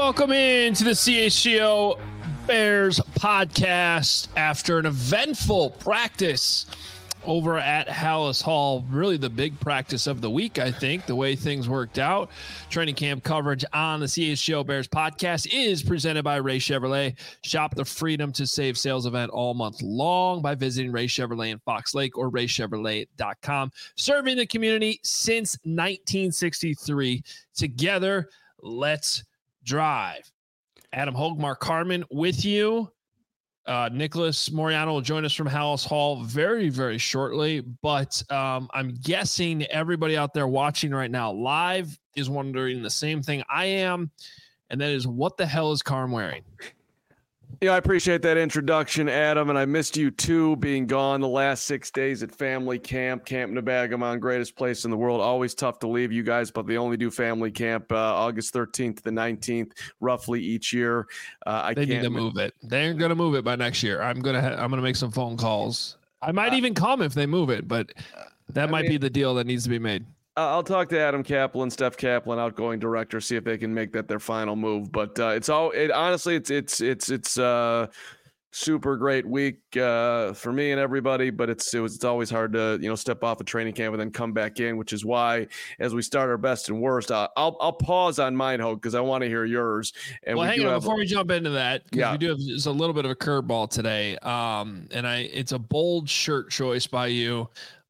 welcome in to the CHGO Bears podcast after an eventful practice over at Halas Hall. Really the big practice of the week, I think, the way things worked out. Training camp coverage on the CHGO Bears podcast is presented by Ray Chevrolet. Shop the Freedom to Save sales event all month long by visiting Ray Chevrolet in Fox Lake or raychevrolet.com. Serving the community since 1963. Together, let's drive. Adam Hogue, Mark Harmon with you. Nicholas Moriano will join us from Halas Hall very, very shortly. But I'm guessing everybody out there watching right now live is wondering the same thing I am, and that is, what the hell is Carm wearing? Yeah, I appreciate that introduction, Adam, and I missed you too, being gone the last 6 days at family camp, Camp Nebagamon, greatest place in the world. Always tough to leave you guys, but they only do family camp August 13th to the 19th, roughly each year. They need to move it. They're going to move it by next year. I'm gonna make some phone calls. I might even come if they move it, but that might be the deal that needs to be made. I'll talk to Adam Kaplan, Steph Kaplan, outgoing director, see if they can make that their final move. But honestly, it's super great week for me and everybody. But it's always hard to step off a training camp and then come back in, which is why as we start our best and worst, I'll pause on mine, Hogue, because I want to hear yours. And hang on before we jump into that, because we do have just a little bit of a curveball today. It's a bold shirt choice by you.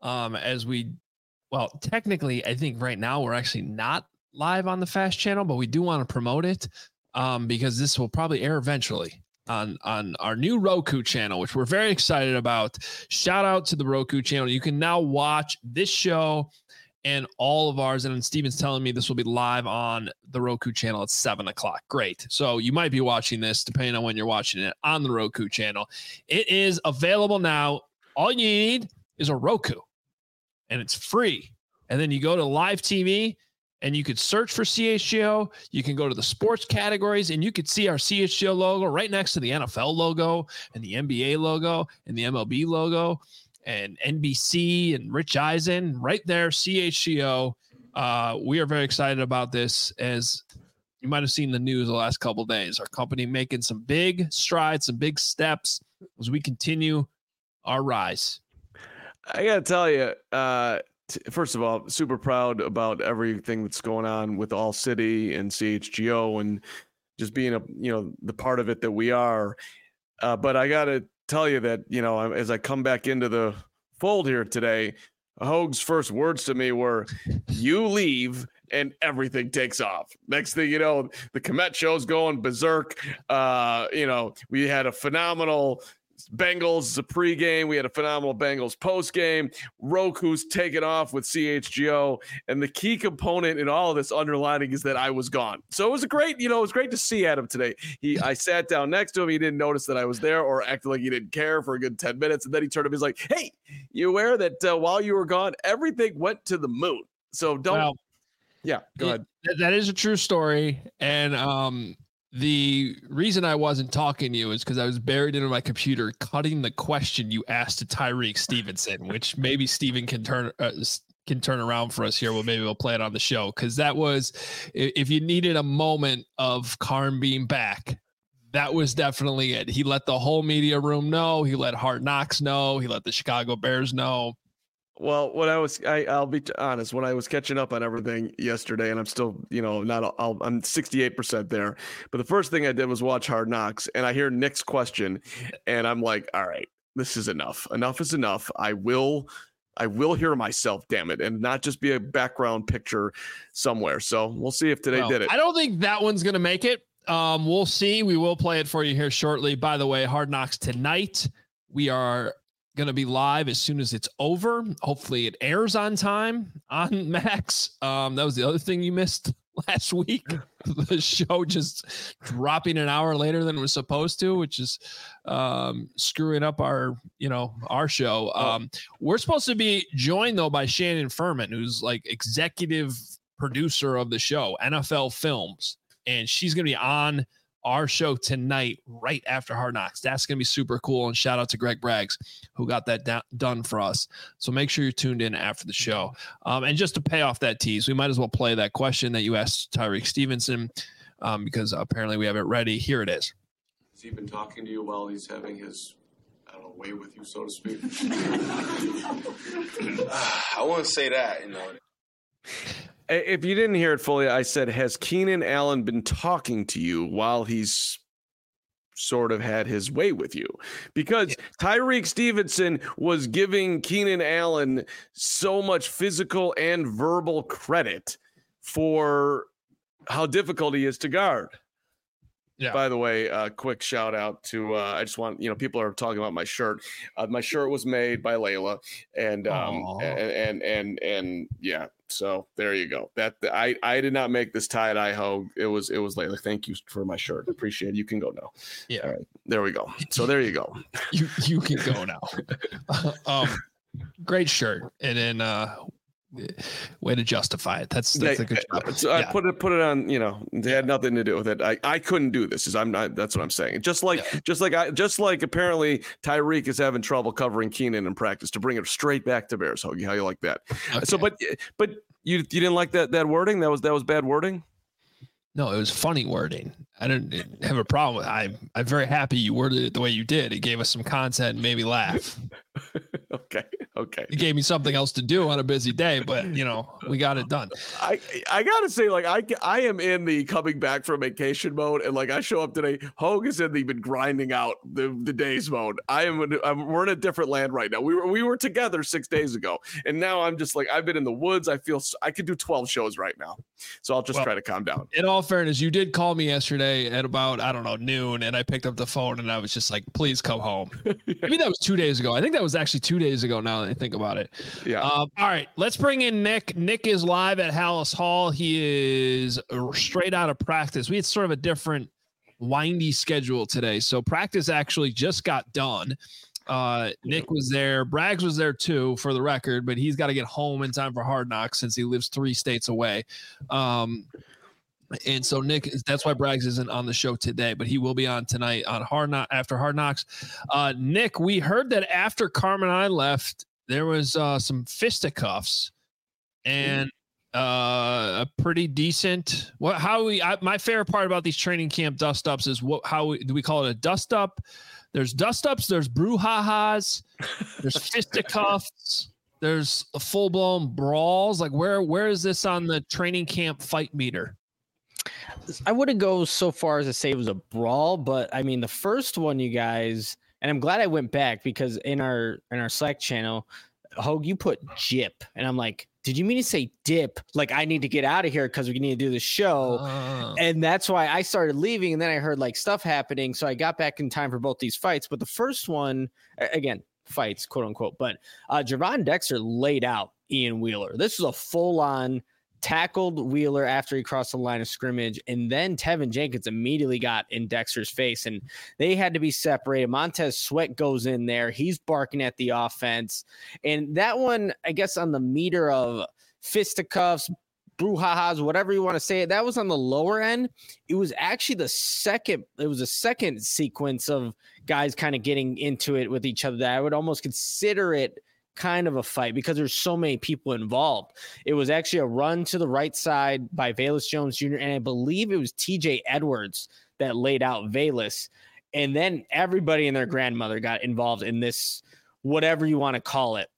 Well, technically, I think right now we're actually not live on the Fast channel, but we do want to promote it because this will probably air eventually on our new Roku channel, which we're very excited about. Shout out to the Roku channel. You can now watch this show and all of ours. And Steven's telling me this will be live on the Roku channel at 7:00. Great. So you might be watching this, depending on when you're watching it, on the Roku channel. It is available now. All you need is a Roku. And it's free. And then you go to live TV and you could search for CHGO. You can go to the sports categories and you could see our CHGO logo right next to the NFL logo and the NBA logo and the MLB logo and NBC and Rich Eisen right there, CHGO. We are very excited about this. As you might have seen the news the last couple of days, our company making some big strides, some big steps as we continue our rise. I got to tell you, first of all, super proud about everything that's going on with All City and CHGO and just being the part of it that we are. But I got to tell you that, as I come back into the fold here today, Hogue's first words to me were, "You leave and everything takes off." Next thing you know, the Komet show's going berserk. We had a phenomenal Bengals pregame. We had a phenomenal Bengals postgame. Roku's taken off with CHGO, and the key component in all of this underlining is that I was gone. So it was great to see Adam today. I sat down next to him. He didn't notice that I was there or acted like he didn't care for a good 10 minutes. And then he turned up. He's like, "Hey, you aware that while you were gone, everything went to the moon? So don't." Well, yeah, go ahead. That is a true story. And, the reason I wasn't talking to you is because I was buried into my computer cutting the question you asked to Tyreek Stevenson, which maybe Steven can turn around for us here. Maybe we'll play it on the show, because that was, if you needed a moment of Carm being back, that was definitely it. He let the whole media room know. He let Hard Knocks know. He let the Chicago Bears know. Well, I'll be honest, when I was catching up on everything yesterday, and I'm still, I'm 68% there. But the first thing I did was watch Hard Knocks, and I hear Nick's question, and I'm like, all right, this is enough. Enough is enough. I will hear myself, damn it, and not just be a background picture somewhere. So we'll see if today did it. I don't think that one's going to make it. We'll see. We will play it for you here shortly. By the way, Hard Knocks tonight. We are going to be live as soon as it's over. Hopefully it airs on time on Max. That was the other thing you missed last week. The show just dropping an hour later than it was supposed to, which is screwing up our show. We're supposed to be joined though by Shannon Furman, who's like executive producer of the show, NFL Films. And she's going to be on our show tonight, right after Hard Knocks. That's going to be super cool. And shout out to Greg Braggs, who got that done for us. So make sure you're tuned in after the show. And just to pay off that tease, we might as well play that question that you asked Tyreek Stevenson. because apparently we have it ready. Here it is. Has he been talking to you while he's having his, I don't know, way with you, so to speak? I wouldn't say that, If you didn't hear it fully, I said, has Keenan Allen been talking to you while he's sort of had his way with you? Because Tyreek Stevenson was giving Keenan Allen so much physical and verbal credit for how difficult he is to guard. Yeah. By the way, quick shout out to I just want, people are talking about my shirt. My shirt was made by Layla, and yeah. So there you go. That I did not make this tie-dye Hogue. It was Layla. Thank you for my shirt. Appreciate it. You can go now. Yeah. All right. There we go. So there you go. you can go now. Great shirt. And then way to justify it. That's a good job. So I put it on, it had nothing to do with it. I couldn't do this. That's what I'm saying. Just like apparently Tyreek is having trouble covering Keenan in practice, to bring it straight back to Bears. Hoagie, how you like that? Okay. So, but you didn't like that wording? That was bad wording? No, it was funny wording. I didn't have a problem with it. I'm very happy you worded it the way you did. It gave us some content and made me laugh. Okay. It gave me something else to do on a busy day, but we got it done. I gotta say, I am in the coming back from vacation mode, and I show up today. Hogue is in the been grinding out the days mode. We're in a different land right now. We were together 6 days ago, and now I'm just I've been in the woods. I feel I could do 12 shows right now, so I'll just try to calm down. In all fairness, you did call me yesterday at about noon, and I picked up the phone and I was just like, "Please come home." Maybe that was 2 days ago. I think that was actually 2 days ago. Now that I think about it. Yeah. All right, let's bring in Nick. Nick is live at Hallis Hall. He is straight out of practice. We had sort of a different windy schedule today, so practice actually just got done. Nick was there. Braggs was there too, for the record, but he's got to get home in time for Hard Knocks since he lives 3 states away. And so Nick, that's why Braggs isn't on the show today, but he will be on tonight on after Hard Knocks. Nick, we heard that after Carmen and I left, there was some fisticuffs and a pretty decent. My favorite part about these training camp dust ups is do we call it a dust up? There's dust ups, there's brouhahas, there's fisticuffs. There's a full blown brawls. Where is this on the training camp fight meter? I wouldn't go so far as to say it was a brawl, but I mean the first one, you guys, and I'm glad I went back because in our Slack channel, Hogue, you put jip, and I'm like, did you mean to say dip? I need to get out of here because we need to do the show, and that's why I started leaving. And then I heard stuff happening, so I got back in time for both these fights. But the first one, again, fights, quote unquote, but Javon Dexter laid out Ian Wheeler. This was a full on. Tackled Wheeler after he crossed the line of scrimmage, and then Tevin Jenkins immediately got in Dexter's face, and they had to be separated. Montez Sweat goes in there. He's barking at the offense, and that one, I guess, on the meter of fisticuffs, brouhahas, whatever you want to say, that was on the lower end. It was actually a second sequence of guys kind of getting into it with each other that I would almost consider it kind of a fight because there's so many people involved. It was actually a run to the right side by Velus Jones Jr. and I believe it was TJ Edwards that laid out Velus, and then everybody and their grandmother got involved in this, whatever you want to call it.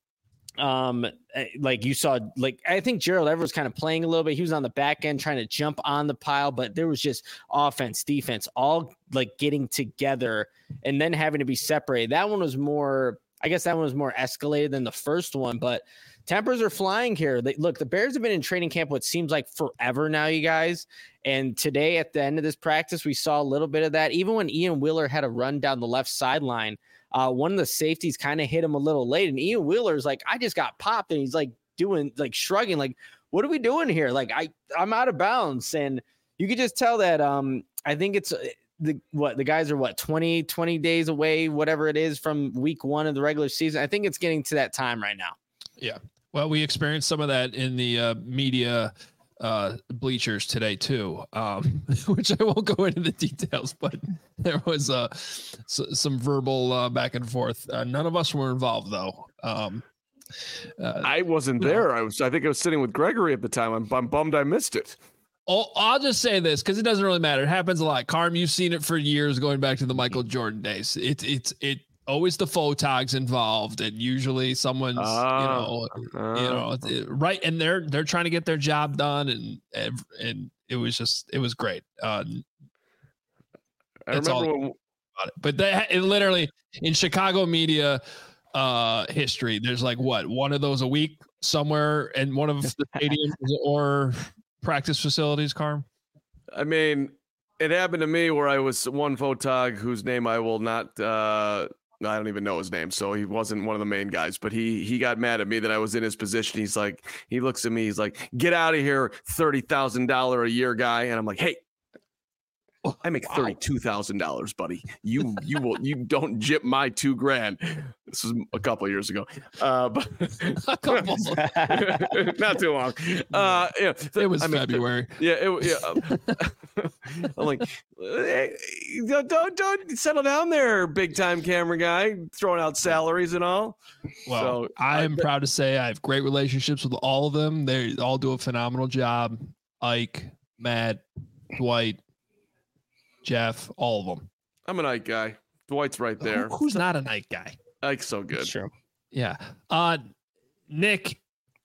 You saw, I think Gerald Everett was kind of playing a little bit. He was on the back end trying to jump on the pile, but there was just offense, defense, all getting together and then having to be separated. That one was more escalated than the first one, but tempers are flying here. The Bears have been in training camp what seems like forever now, you guys. And today at the end of this practice, we saw a little bit of that. Even when Ian Wheeler had a run down the left sideline, one of the safeties kind of hit him a little late. And Ian Wheeler's like, I just got popped. And he's shrugging, what are we doing here? I'm out of bounds. And you could just tell that I think it's the guys are 20 days away, whatever it is, from week 1 of the regular season. I think it's getting to that time right now. Yeah. Well, we experienced some of that in the media bleachers today too, which I won't go into the details, but there was some verbal back and forth. None of us were involved though. I wasn't there. I think I was sitting with Gregory at the time. I'm bummed I missed it. I'll just say this because it doesn't really matter. It happens a lot. Carm, you've seen it for years, going back to the Michael Jordan days. It's always the photogs involved, and usually someone's right, and they're trying to get their job done, and it was great. I remember but it literally in Chicago media history, there's like one of those a week somewhere in one of the stadiums or practice facilities, Carm? I mean, it happened to me where I was one photog whose name I will not I don't even know his name, so he wasn't one of the main guys, but he got mad at me that I was in his position. He's like, he looks at me, he's like, "Get out of here, $30,000 a year guy." And I'm like, "Hey, I make $32,000, buddy. You don't jip my $2,000." This was a couple of years ago, but a couple, not too long. It was February. I'm like, hey, don't settle down there, big time camera guy, throwing out salaries and all. Well, so, I am proud to say I have great relationships with all of them. They all do a phenomenal job. Ike, Matt, Dwight, Jeff, all of them. I'm an Ike guy. Dwight's right there. Who's not an Ike guy? Ike's so good. Sure. Yeah. Nick,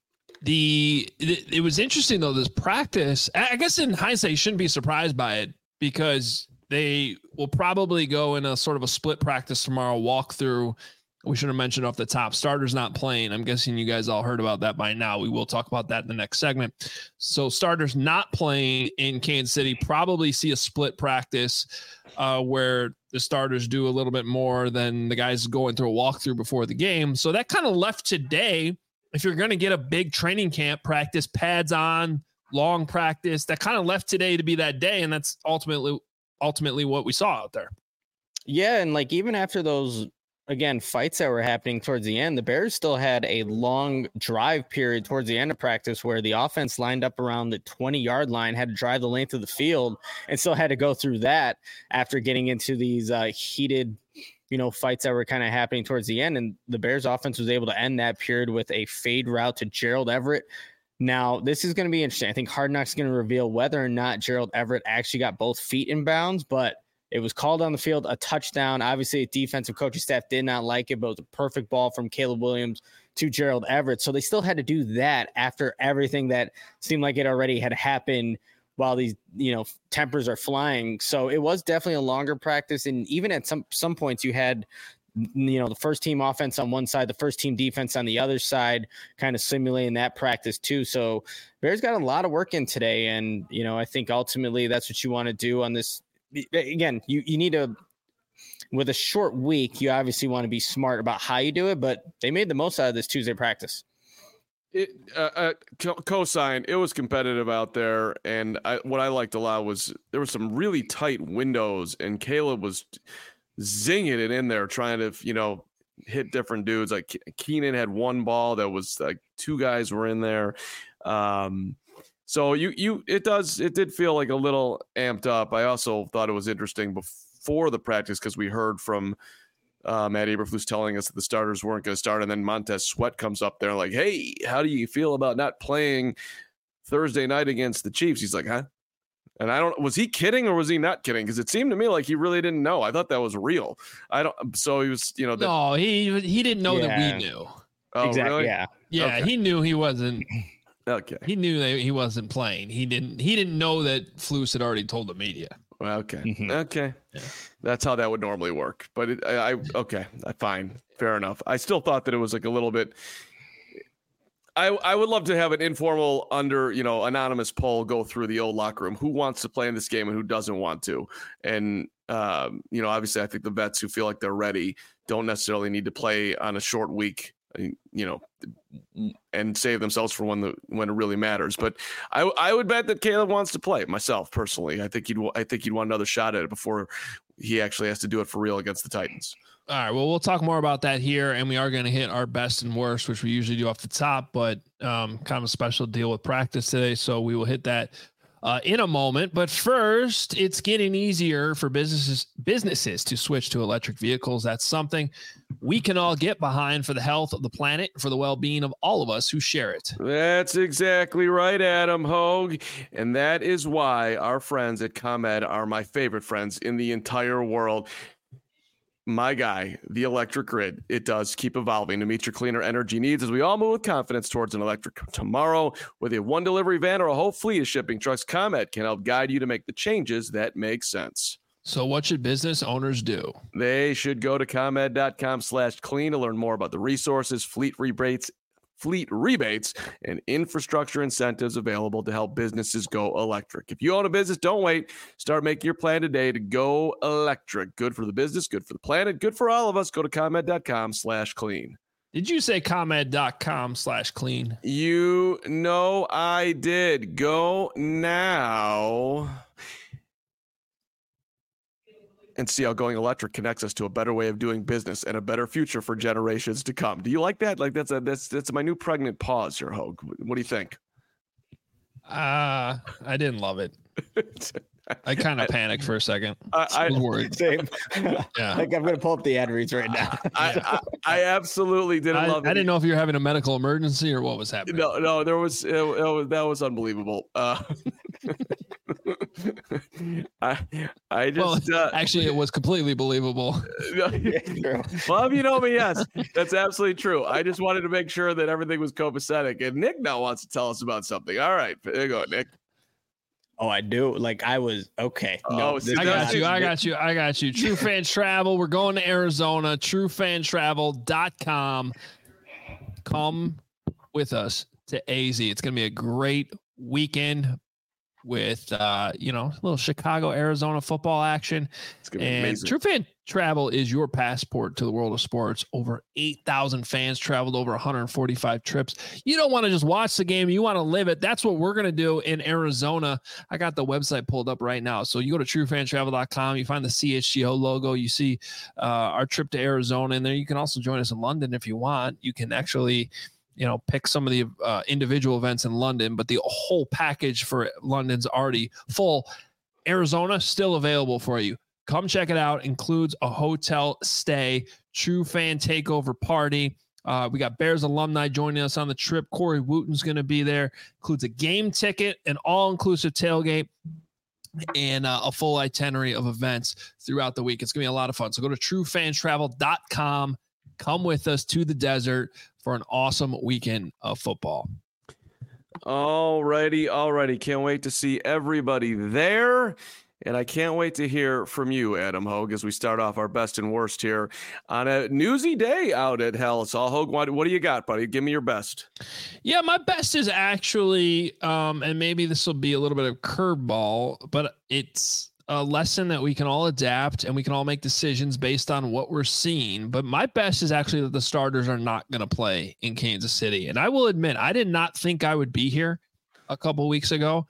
it was interesting though, this practice. I guess in hindsight, you shouldn't be surprised by it because they will probably go in a sort of a split practice tomorrow, walk through. We should have mentioned off the top, starters not playing. I'm guessing you guys all heard about that by now. We will talk about that in the next segment. So starters not playing in Kansas City, probably see a split practice where the starters do a little bit more than the guys going through a walkthrough before the game. So that kind of left today. If you're going to get a big training camp practice, pads on, long practice, that kind of left today to be that day. And that's ultimately what we saw out there. Yeah. And like, even after those, again, fights that were happening towards the end, the Bears still had a long drive period towards the end of practice where the offense lined up around the 20-yard line, had to drive the length of the field, and still had to go through that after getting into these heated, fights that were kind of happening towards the end. And the Bears offense was able to end that period with a fade route to Gerald Everett. Now, this is going to be interesting. I think Hard Knocks is going to reveal whether or not Gerald Everett actually got both feet in bounds, but it was called on the field, a touchdown. Obviously, the defensive coaching staff did not like it, but it was a perfect ball from Caleb Williams to Gerald Everett. So they still had to do that after everything that seemed like it already had happened while these, tempers are flying. So it was definitely a longer practice. And even at some points you had, the first team offense on one side, the first team defense on the other side, kind of simulating that practice too. So Bears got a lot of work in today. And, I think ultimately that's what you want to do on this. Again, you need to, with a short week, you obviously want to be smart about how you do it, but they made the most out of this Tuesday practice. Cosign, it was competitive out there, and what I liked a lot was there were some really tight windows, and Caleb was zinging it in there, trying to, hit different dudes. Like Keenan had one ball that was like two guys were in there. So it did feel like a little amped up. I also thought it was interesting before the practice because we heard from Matt Eberflus telling us that the starters weren't going to start, and then Montez Sweat comes up there like, "Hey, how do you feel about not playing Thursday night against the Chiefs?" He's like, "Huh?" And was he kidding or was he not kidding? Because it seemed to me like he really didn't know. I thought that was real. So he was, no, he didn't know that we knew. Oh, exactly. Really? Yeah. Yeah. Okay. He knew he wasn't. Okay. He knew that he wasn't playing. He didn't know that Flus had already told the media. Well, okay. Mm-hmm. Okay. Yeah. That's how that would normally work. But okay, fine. Fair enough. I still thought that it was like a little bit. I would love to have an informal anonymous poll go through the old locker room. Who wants to play in this game and who doesn't want to? And, obviously I think the vets who feel like they're ready don't necessarily need to play on a short week, and save themselves for when it really matters. But I would bet that Caleb wants to play myself personally. I think he'd want another shot at it before he actually has to do it for real against the Titans. All right. Well, we'll talk more about that here, and we are going to hit our best and worst, which we usually do off the top, but kind of a special deal with practice today. So we will hit that in a moment. But first, it's getting easier for businesses to switch to electric vehicles. That's something we can all get behind for the health of the planet, for the well-being of all of us who share it. That's exactly right, Adam Hogue. And that is why our friends at ComEd are my favorite friends in the entire world. My guy, the electric grid, it does keep evolving to meet your cleaner energy needs as we all move with confidence towards an electric tomorrow. Whether you have one delivery van or a whole fleet of shipping trucks, ComEd can help guide you to make the changes that make sense. So what should business owners do? They should go to ComEd.com/clean to learn more about the resources, fleet rebates, and infrastructure incentives available to help businesses go electric. If you own a business, don't wait. Start making your plan today to go electric. Good for the business, good for the planet, good for all of us. Go to ComEd.com/clean. Did you say ComEd.com/clean? You know I did. Go now and see how going electric connects us to a better way of doing business and a better future for generations to come. Do you like that? Like that's my new pregnant pause here, Hogue. What do you think? I didn't love it. I kind of panicked for a second. I was worried. Same. Yeah. Like I'm gonna pull up the ad reads right now. I absolutely didn't love it. I didn't know if you were having a medical emergency or what was happening. No, that was unbelievable. I just actually it was completely believable. Well, if you know me, yes, that's absolutely true. I just wanted to make sure that everything was copacetic, and Nick now wants to tell us about something. All right, there you go, Nick. Oh, I do. Like I was okay. No, I got you. True Fan Travel. We're going to Arizona. TrueFanTravel.com. Come with us to AZ. It's going to be a great weekend with a little Chicago, Arizona football action. It's gonna be amazing. True Fan Travel is your passport to the world of sports. Over 8,000 fans traveled over 145 trips. You don't want to just watch the game. You want to live it. That's what we're going to do in Arizona. I got the website pulled up right now. So you go to truefantravel.com. You find the CHGO logo. You see our trip to Arizona in there. You can also join us in London if you want. You can actually pick some of the individual events in London, but the whole package for London's already full. Arizona still available for you. Come check it out. Includes a hotel stay, True Fan Takeover party. We got Bears alumni joining us on the trip. Corey Wooten's going to be there. Includes a game ticket, an all-inclusive tailgate, and a full itinerary of events throughout the week. It's going to be a lot of fun. So go to truefantravel.com. Come with us to the desert for an awesome weekend of football. Alrighty. Can't wait to see everybody there. And I can't wait to hear from you, Adam Hogue, as we start off our best and worst here on a newsy day out at Hell-Saul. Hogue, what do you got, buddy? Give me your best. Yeah, my best is actually, and maybe this will be a little bit of curveball, but it's a lesson that we can all adapt and we can all make decisions based on what we're seeing. But my best is actually that the starters are not going to play in Kansas City. And I will admit, I did not think I would be here a couple weeks ago.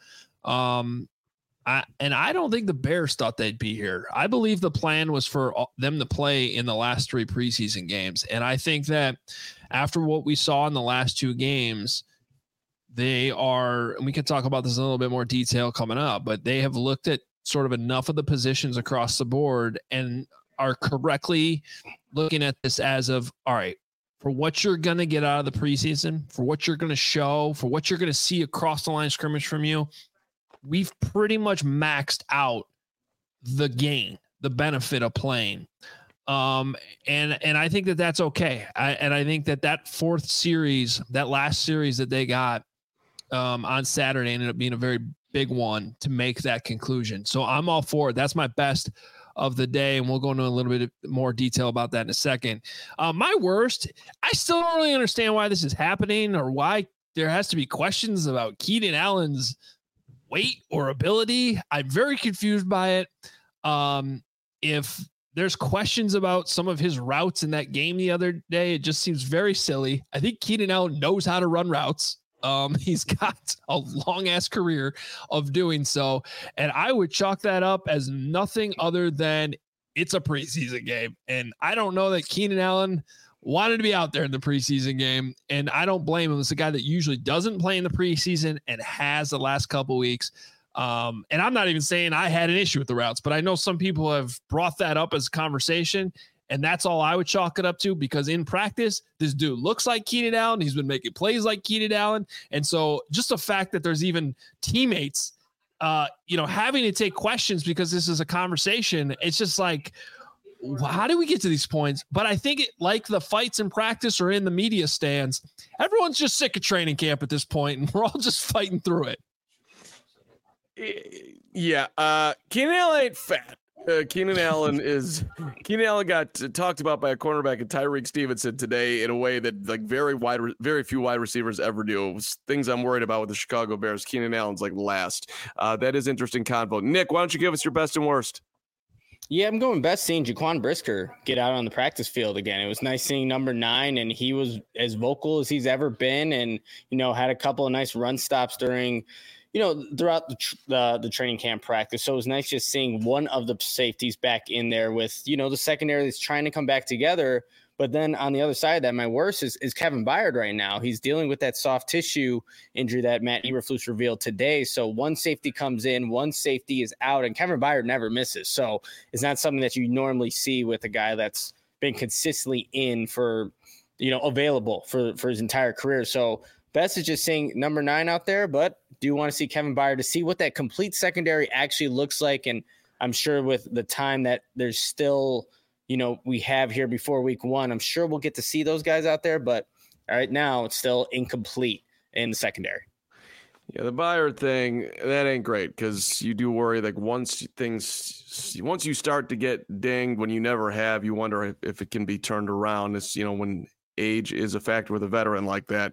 I don't think the Bears thought they'd be here. I believe the plan was for them to play in the last 3 preseason games. And I think that after what we saw in the last 2 games, they are, and we can talk about this in a little bit more detail coming up, but they have looked at sort of enough of the positions across the board and are correctly looking at this as of, all right, for what you're going to get out of the preseason, for what you're going to show, for what you're going to see across the line of scrimmage from you, we've pretty much maxed out the gain, the benefit of playing. And I think that that's okay. I think that 4th series, that last series that they got on Saturday ended up being a very big one to make that conclusion. So I'm all for it. That's my best of the day. And we'll go into a little bit more detail about that in a second. My worst, I still don't really understand why this is happening or why there has to be questions about Keenan Allen's weight or ability. I'm very confused by it. If there's questions about some of his routes in that game the other day, it just seems very silly. I think Keenan Allen knows how to run routes. He's got a long ass career of doing so. And I would chalk that up as nothing other than it's a preseason game. And I don't know that Keenan Allen wanted to be out there in the preseason game. And I don't blame him. It's a guy that usually doesn't play in the preseason and has the last couple weeks. And I'm not even saying I had an issue with the routes, but I know some people have brought that up as a conversation. And that's all I would chalk it up to, because in practice, this dude looks like Keenan Allen. He's been making plays like Keenan Allen. And so just the fact that there's even teammates, having to take questions because this is a conversation, it's just like, how do we get to these points? But I think like the fights in practice or in the media stands, everyone's just sick of training camp at this point, and we're all just fighting through it. Yeah. Keenan Allen ain't fat. Keenan Allen got talked about by a cornerback and Tyreek Stevenson today in a way that like very few wide receivers ever do. It was things I'm worried about with the Chicago Bears. Keenan Allen's like last. That is interesting convo. Nick, why don't you give us your best and worst? Yeah, I'm going best seeing Jaquan Brisker get out on the practice field again. It was nice seeing number 9, and he was as vocal as he's ever been, and had a couple of nice run stops during throughout the training camp practice. So it was nice just seeing one of the safeties back in there with, the secondary that's trying to come back together. But then on the other side of that, my worst is Kevin Byard right now. He's dealing with that soft tissue injury that Matt Eberflus revealed today. So one safety comes in, one safety is out, and Kevin Byard never misses. So it's not something that you normally see with a guy that's been consistently in for, available for his entire career. So best is just seeing number 9 out there, but do want to see Kevin Byard to see what that complete secondary actually looks like. And I'm sure with the time that there's still, we have here before week 1, I'm sure we'll get to see those guys out there, but right now it's still incomplete in the secondary. Yeah, the Byard thing, that ain't great, because you do worry, like once you start to get dinged when you never have, you wonder if it can be turned around. It's, when age is a factor with a veteran like that.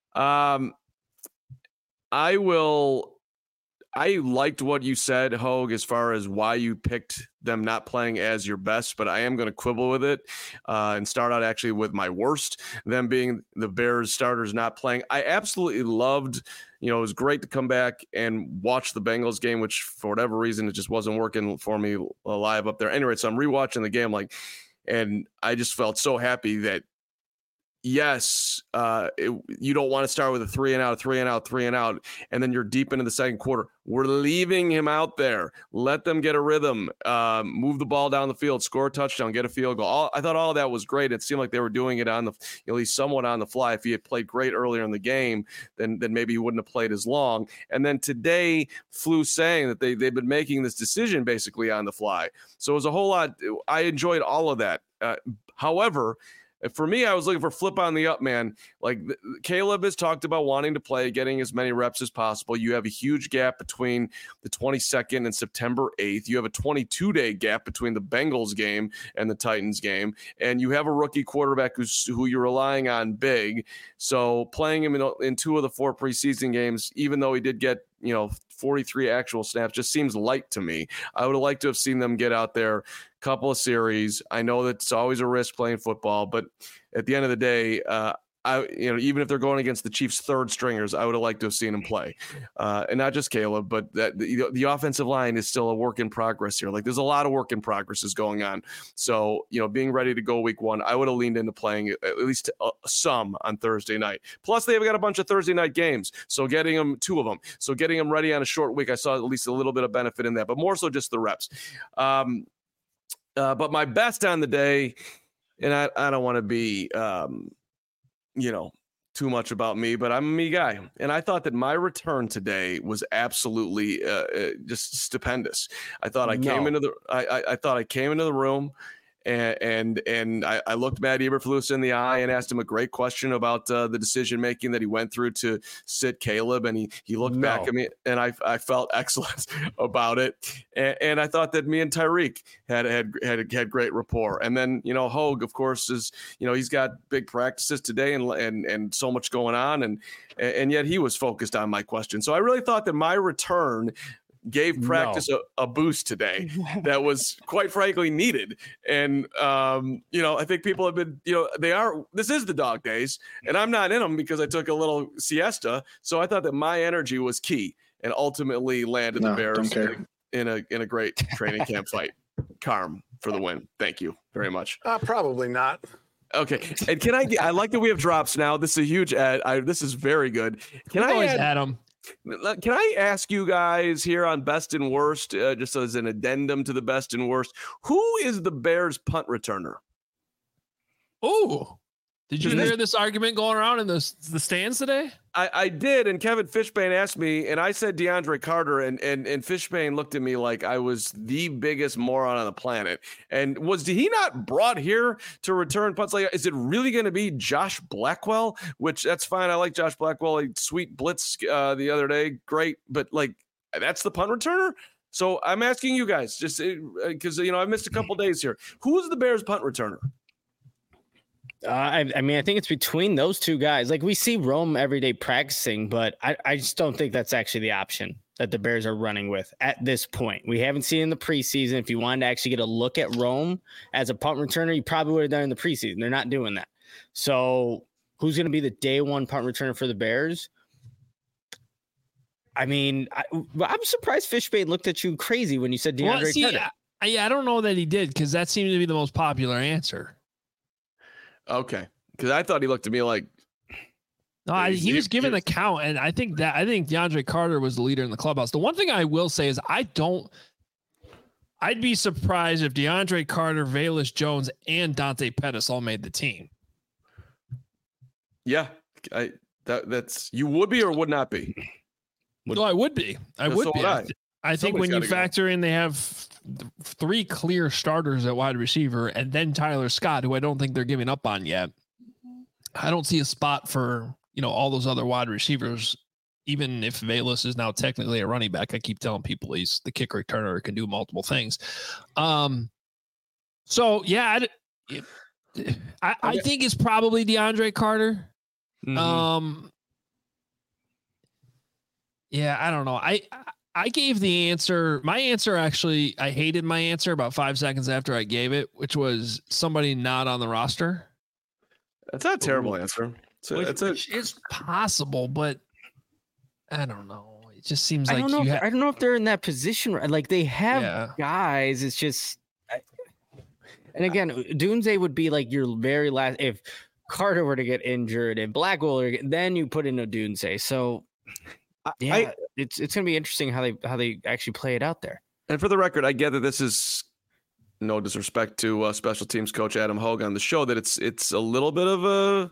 I liked what you said, Hogue, as far as why you picked them not playing as your best, but I am going to quibble with it and start out actually with my worst, them being the Bears starters not playing. I absolutely loved, it was great to come back and watch the Bengals game, which for whatever reason, it just wasn't working for me live up there. Anyway, so I'm rewatching the game, and I just felt so happy that, yes, you don't want to start with a 3 and out, and then you're deep into the second quarter. We're leaving him out there. Let them get a rhythm, move the ball down the field, score a touchdown, get a field goal. I thought all of that was great. It seemed like they were doing it at least somewhat on the fly. If he had played great earlier in the game, then maybe he wouldn't have played as long. And then today, Flew saying that they've been making this decision basically on the fly. So it was a whole lot. I enjoyed all of that. However, for me, I was looking for flip on the up, man. Like Caleb has talked about wanting to play, getting as many reps as possible. You have a huge gap between the 22nd and September 8th. You have a 22-day gap between the Bengals game and the Titans game. And you have a rookie quarterback who you're relying on big. So playing him in 2 of the 4 preseason games, even though he did get, 43 actual snaps, just seems light to me. I would have liked to have seen them get out there, couple of series. I know that it's always a risk playing football, but at the end of the day, even if they're going against the Chiefs' third stringers, I would have liked to have seen him play. And not just Caleb, but that the offensive line is still a work in progress here. Like there's a lot of work in progresses going on. So, being ready to go week 1, I would have leaned into playing at least some on Thursday night. Plus they've got a bunch of Thursday night games. So getting them 2 of them. So getting them ready on a short week, I saw at least a little bit of benefit in that, but more so just the reps. But my best on the day, and I don't want to be, too much about me, but I'm a me guy. And I thought that my return today was absolutely just stupendous. I thought I came into the room and I looked Matt Eberflus in the eye and asked him a great question about the decision making that he went through to sit Caleb, and he looked back at me, and I felt excellent about it, and I thought that me and Tyreek had great rapport. And then Hogue, of course, is he's got big practices today and so much going on, and yet he was focused on my question. So I really thought that my return gave practice a boost today that was quite frankly needed. And, I think people have been, this is the dog days, and I'm not in them because I took a little siesta. So I thought that my energy was key and ultimately landed the Bears in a great training camp fight. Carm for the win. Thank you very much. Probably not. Okay. And I like that we have drops now. This is a huge ad. This is very good. Can I always add them? Can I ask you guys here on best and worst, just as an addendum to the best and worst, who is the Bears punt returner? Oh, did you hear this argument going around in the stands today? I did, and Kevin Fishbane asked me, and I said DeAndre Carter, and Fishbane looked at me like I was the biggest moron on the planet. And did he not brought here to return punts? Like, is it really going to be Josh Blackwell? Which that's fine. I like Josh Blackwell. Sweet blitz the other day, great, but like that's the punt returner. So I'm asking you guys, just because I've missed a couple days here. Who's the Bears punt returner? I mean, I think it's between those two guys. Like we see Rome every day practicing, but I just don't think that's actually the option that the Bears are running with at this point. We haven't seen in the preseason. If you wanted to actually get a look at Rome as a punt returner, you probably would have done in the preseason. They're not doing that. So who's going to be the day one punt returner for the Bears? I mean, I'm surprised Fishbane looked at you crazy when you said DeAndre Carter. I don't know that he did because that seemed to be the most popular answer. Okay, because I thought he looked at me like he was given the count, and I think DeAndre Carter was the leader in the clubhouse. The one thing I will say is I'd be surprised if DeAndre Carter, Velus Jones, and Dante Pettis all made the team. Yeah, that's you would be or would not be. No, I would be. I would be. I think when you factor in they have 3 clear starters at wide receiver and then Tyler Scott, who I don't think they're giving up on yet. I don't see a spot for, all those other wide receivers, even if Velus is now technically a running back. I keep telling people he's the kick returner, can do multiple things. So yeah, I think it's probably DeAndre Carter. Mm-hmm. Yeah, I don't know. I gave the answer. My answer, actually, I hated my answer about 5 seconds after I gave it, which was somebody not on the roster. That's not a terrible answer. It's possible, but I don't know. It just seems like I don't know if they're in that position. Like they have guys. It's just, and again, Dunze would be like your very last. If Carter were to get injured and Blackwell, then you put in a Dunze. So. Yeah, it's going to be interesting how they actually play it out there. And for the record, I get that this is no disrespect to special teams coach Adam Hogue on the show, that it's a little bit of a,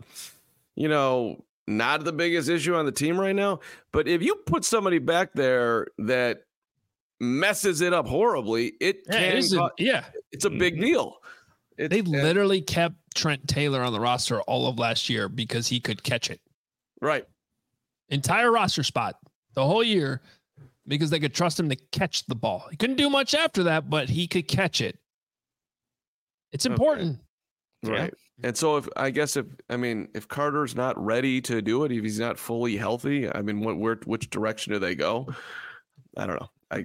not the biggest issue on the team right now. But if you put somebody back there that messes it up horribly, it's a big deal. They literally kept Trent Taylor on the roster all of last year because he could catch it. Right. Entire roster spot the whole year because they could trust him to catch the ball. He couldn't do much after that, but he could catch it. It's important. Okay. Right. And so if Carter's not ready to do it, if he's not fully healthy, which direction do they go? I don't know.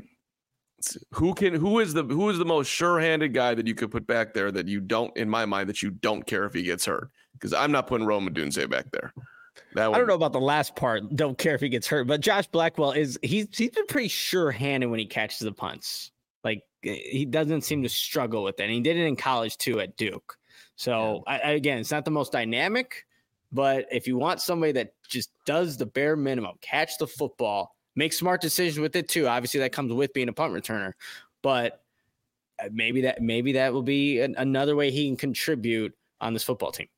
Who is the most sure-handed guy that you could put back there that you don't, in my mind, that you don't care if he gets hurt? Because I'm not putting Rome Odunze back there. I don't know about the last part. Don't care if he gets hurt, but Josh Blackwell he's been pretty sure-handed when he catches the punts. Like he doesn't seem to struggle with it. And he did it in college too at Duke. So again, it's not the most dynamic, but if you want somebody that just does the bare minimum, catch the football, make smart decisions with it too. Obviously, that comes with being a punt returner, but maybe that will be another way he can contribute on this football team.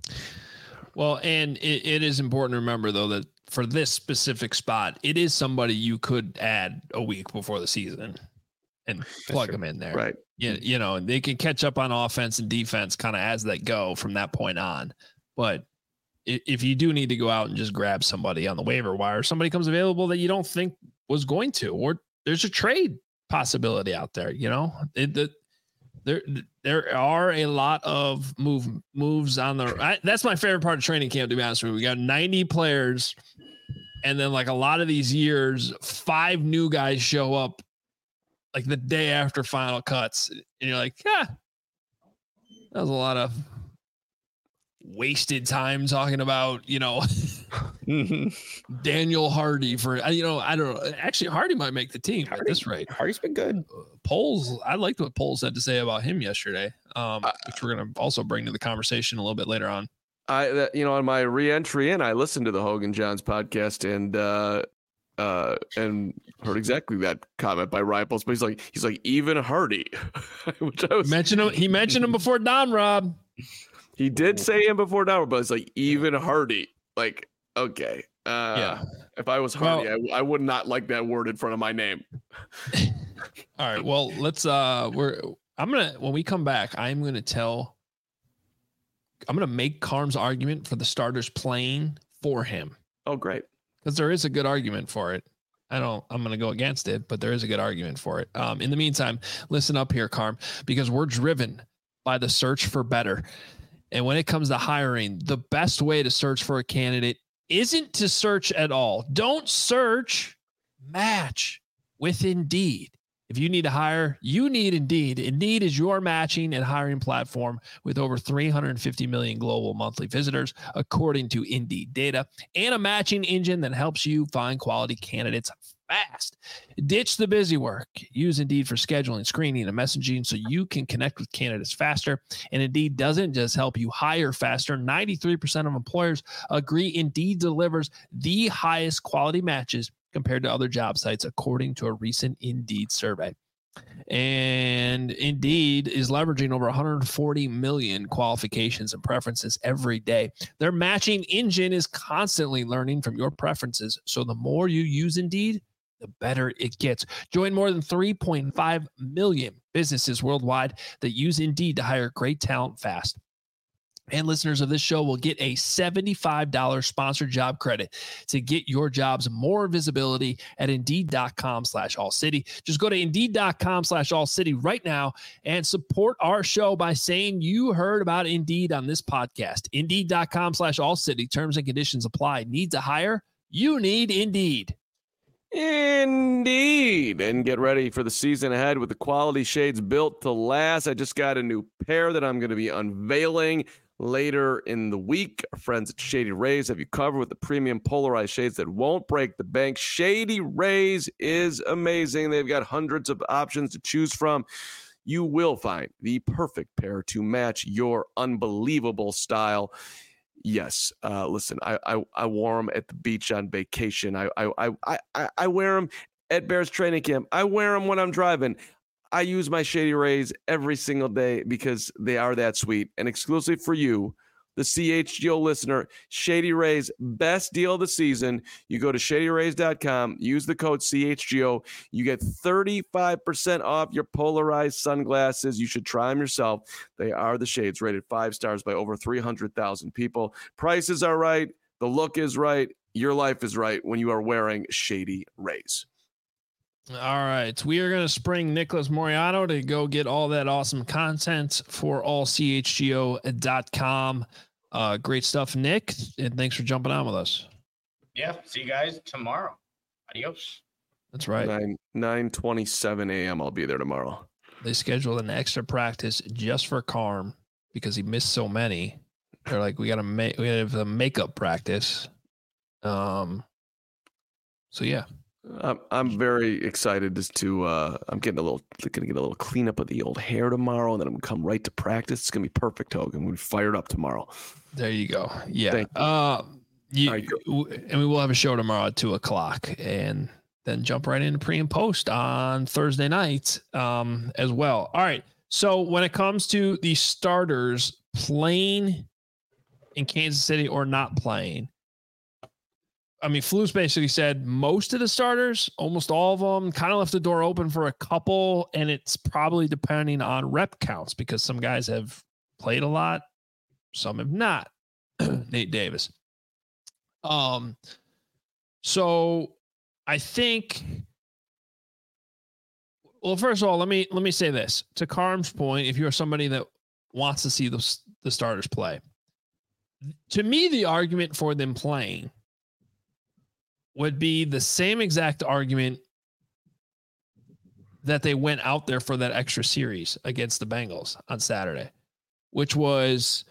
Well, and it is important to remember, though, that for this specific spot, it is somebody you could add a week before the season and plug them in there. Right. Yeah, they can catch up on offense and defense kind of as they go from that point on. But if you do need to go out and just grab somebody on the waiver wire, somebody comes available that you don't think was going to, or there's a trade possibility out there, There are a lot of moves on that's my favorite part of training camp, to be honest with you. We got 90 players, and then like a lot of these years, 5 new guys show up like the day after final cuts, and you're like, that was a lot of wasted time talking about, Daniel Hardy for, I don't know. Actually, Hardy might make the team at this rate. Hardy's been good. Poles, I liked what Poles had to say about him yesterday, which we're going to also bring to the conversation a little bit later on. On my re-entry in, I listened to the Hogan Johns podcast, and and heard exactly that comment by Ryan Poles. But he's like even Hardy, which I was He mentioned him before Don Rob. He did say him before Don Rob, but it's like even Hardy. Like, okay, yeah. If I was Hardy, I would not like that word in front of my name. All right. Well, let's. When we come back, I'm gonna make Carm's argument for the starters playing for him. Oh, great. Because there is a good argument for it. I'm going to go against it, but there is a good argument for it. In the meantime, listen up here, Carm, because we're driven by the search for better. And when it comes to hiring, the best way to search for a candidate isn't to search at all. Don't search, match with Indeed. If you need to hire, you need Indeed. Indeed is your matching and hiring platform with over 350 million global monthly visitors, according to Indeed data, and a matching engine that helps you find quality candidates fast. Ditch the busy work. Use Indeed for scheduling, screening, and messaging so you can connect with candidates faster. And Indeed doesn't just help you hire faster. 93% of employers agree Indeed delivers the highest quality matches compared to other job sites, according to a recent Indeed survey. And Indeed is leveraging over 140 million qualifications and preferences every day. Their matching engine is constantly learning from your preferences. So the more you use Indeed, the better it gets. Join more than 3.5 million businesses worldwide that use Indeed to hire great talent fast. And listeners of this show will get a $75 sponsored job credit to get your jobs more visibility at Indeed.com/AllCity. Just go to Indeed.com/AllCity right now and support our show by saying you heard about Indeed on this podcast. Indeed.com/AllCity. Terms and conditions apply. Need to hire? You need Indeed. Indeed. And get ready for the season ahead with the quality shades built to last. I just got a new pair that I'm going to be unveiling later in the week. Our friends at Shady Rays have you covered with the premium polarized shades that won't break the bank. Shady Rays is amazing. They've got hundreds of options to choose from. You will find the perfect pair to match your unbelievable style. Yes, listen, I wore them at the beach on vacation. I wear them at Bears training camp. I wear them when I'm driving. I use my Shady Rays every single day because they are that sweet. And exclusive for you, the CHGO listener, Shady Rays, best deal of the season. You go to shadyrays.com, use the code CHGO. You get 35% off your polarized sunglasses. You should try them yourself. They are the shades rated 5 stars by over 300,000 people. Prices are right. The look is right. Your life is right when you are wearing Shady Rays. All right. We are going to spring Nicholas Moreano to go get all that awesome content for allchgo.com. Great stuff, Nick. And thanks for jumping on with us. Yeah. See you guys tomorrow. Adios. That's right. 9:27 a.m. I'll be there tomorrow. They scheduled an extra practice just for Carm because he missed so many. They're like, we have a makeup practice. So yeah. I'm very excited to I'm gonna get a little cleanup of the old hair tomorrow, and then I'm gonna come right to practice. It's gonna be perfect, Hogan. I'm gonna be fired up tomorrow. There you go. Yeah. And we will have a show tomorrow at 2:00, and then jump right into pre and post on Thursday night as well. All right. So when it comes to the starters playing in Kansas City or not playing, I mean, Flus basically said most of the starters, almost all of them, kind of left the door open for a couple, and it's probably depending on rep counts because some guys have played a lot, some have not. Nate Davis. So I think, well, first of all, let me say this to Carm's point. If you're somebody that wants to see the starters play, to me, the argument for them playing would be the same exact argument that they went out there for that extra series against the Bengals on Saturday, which was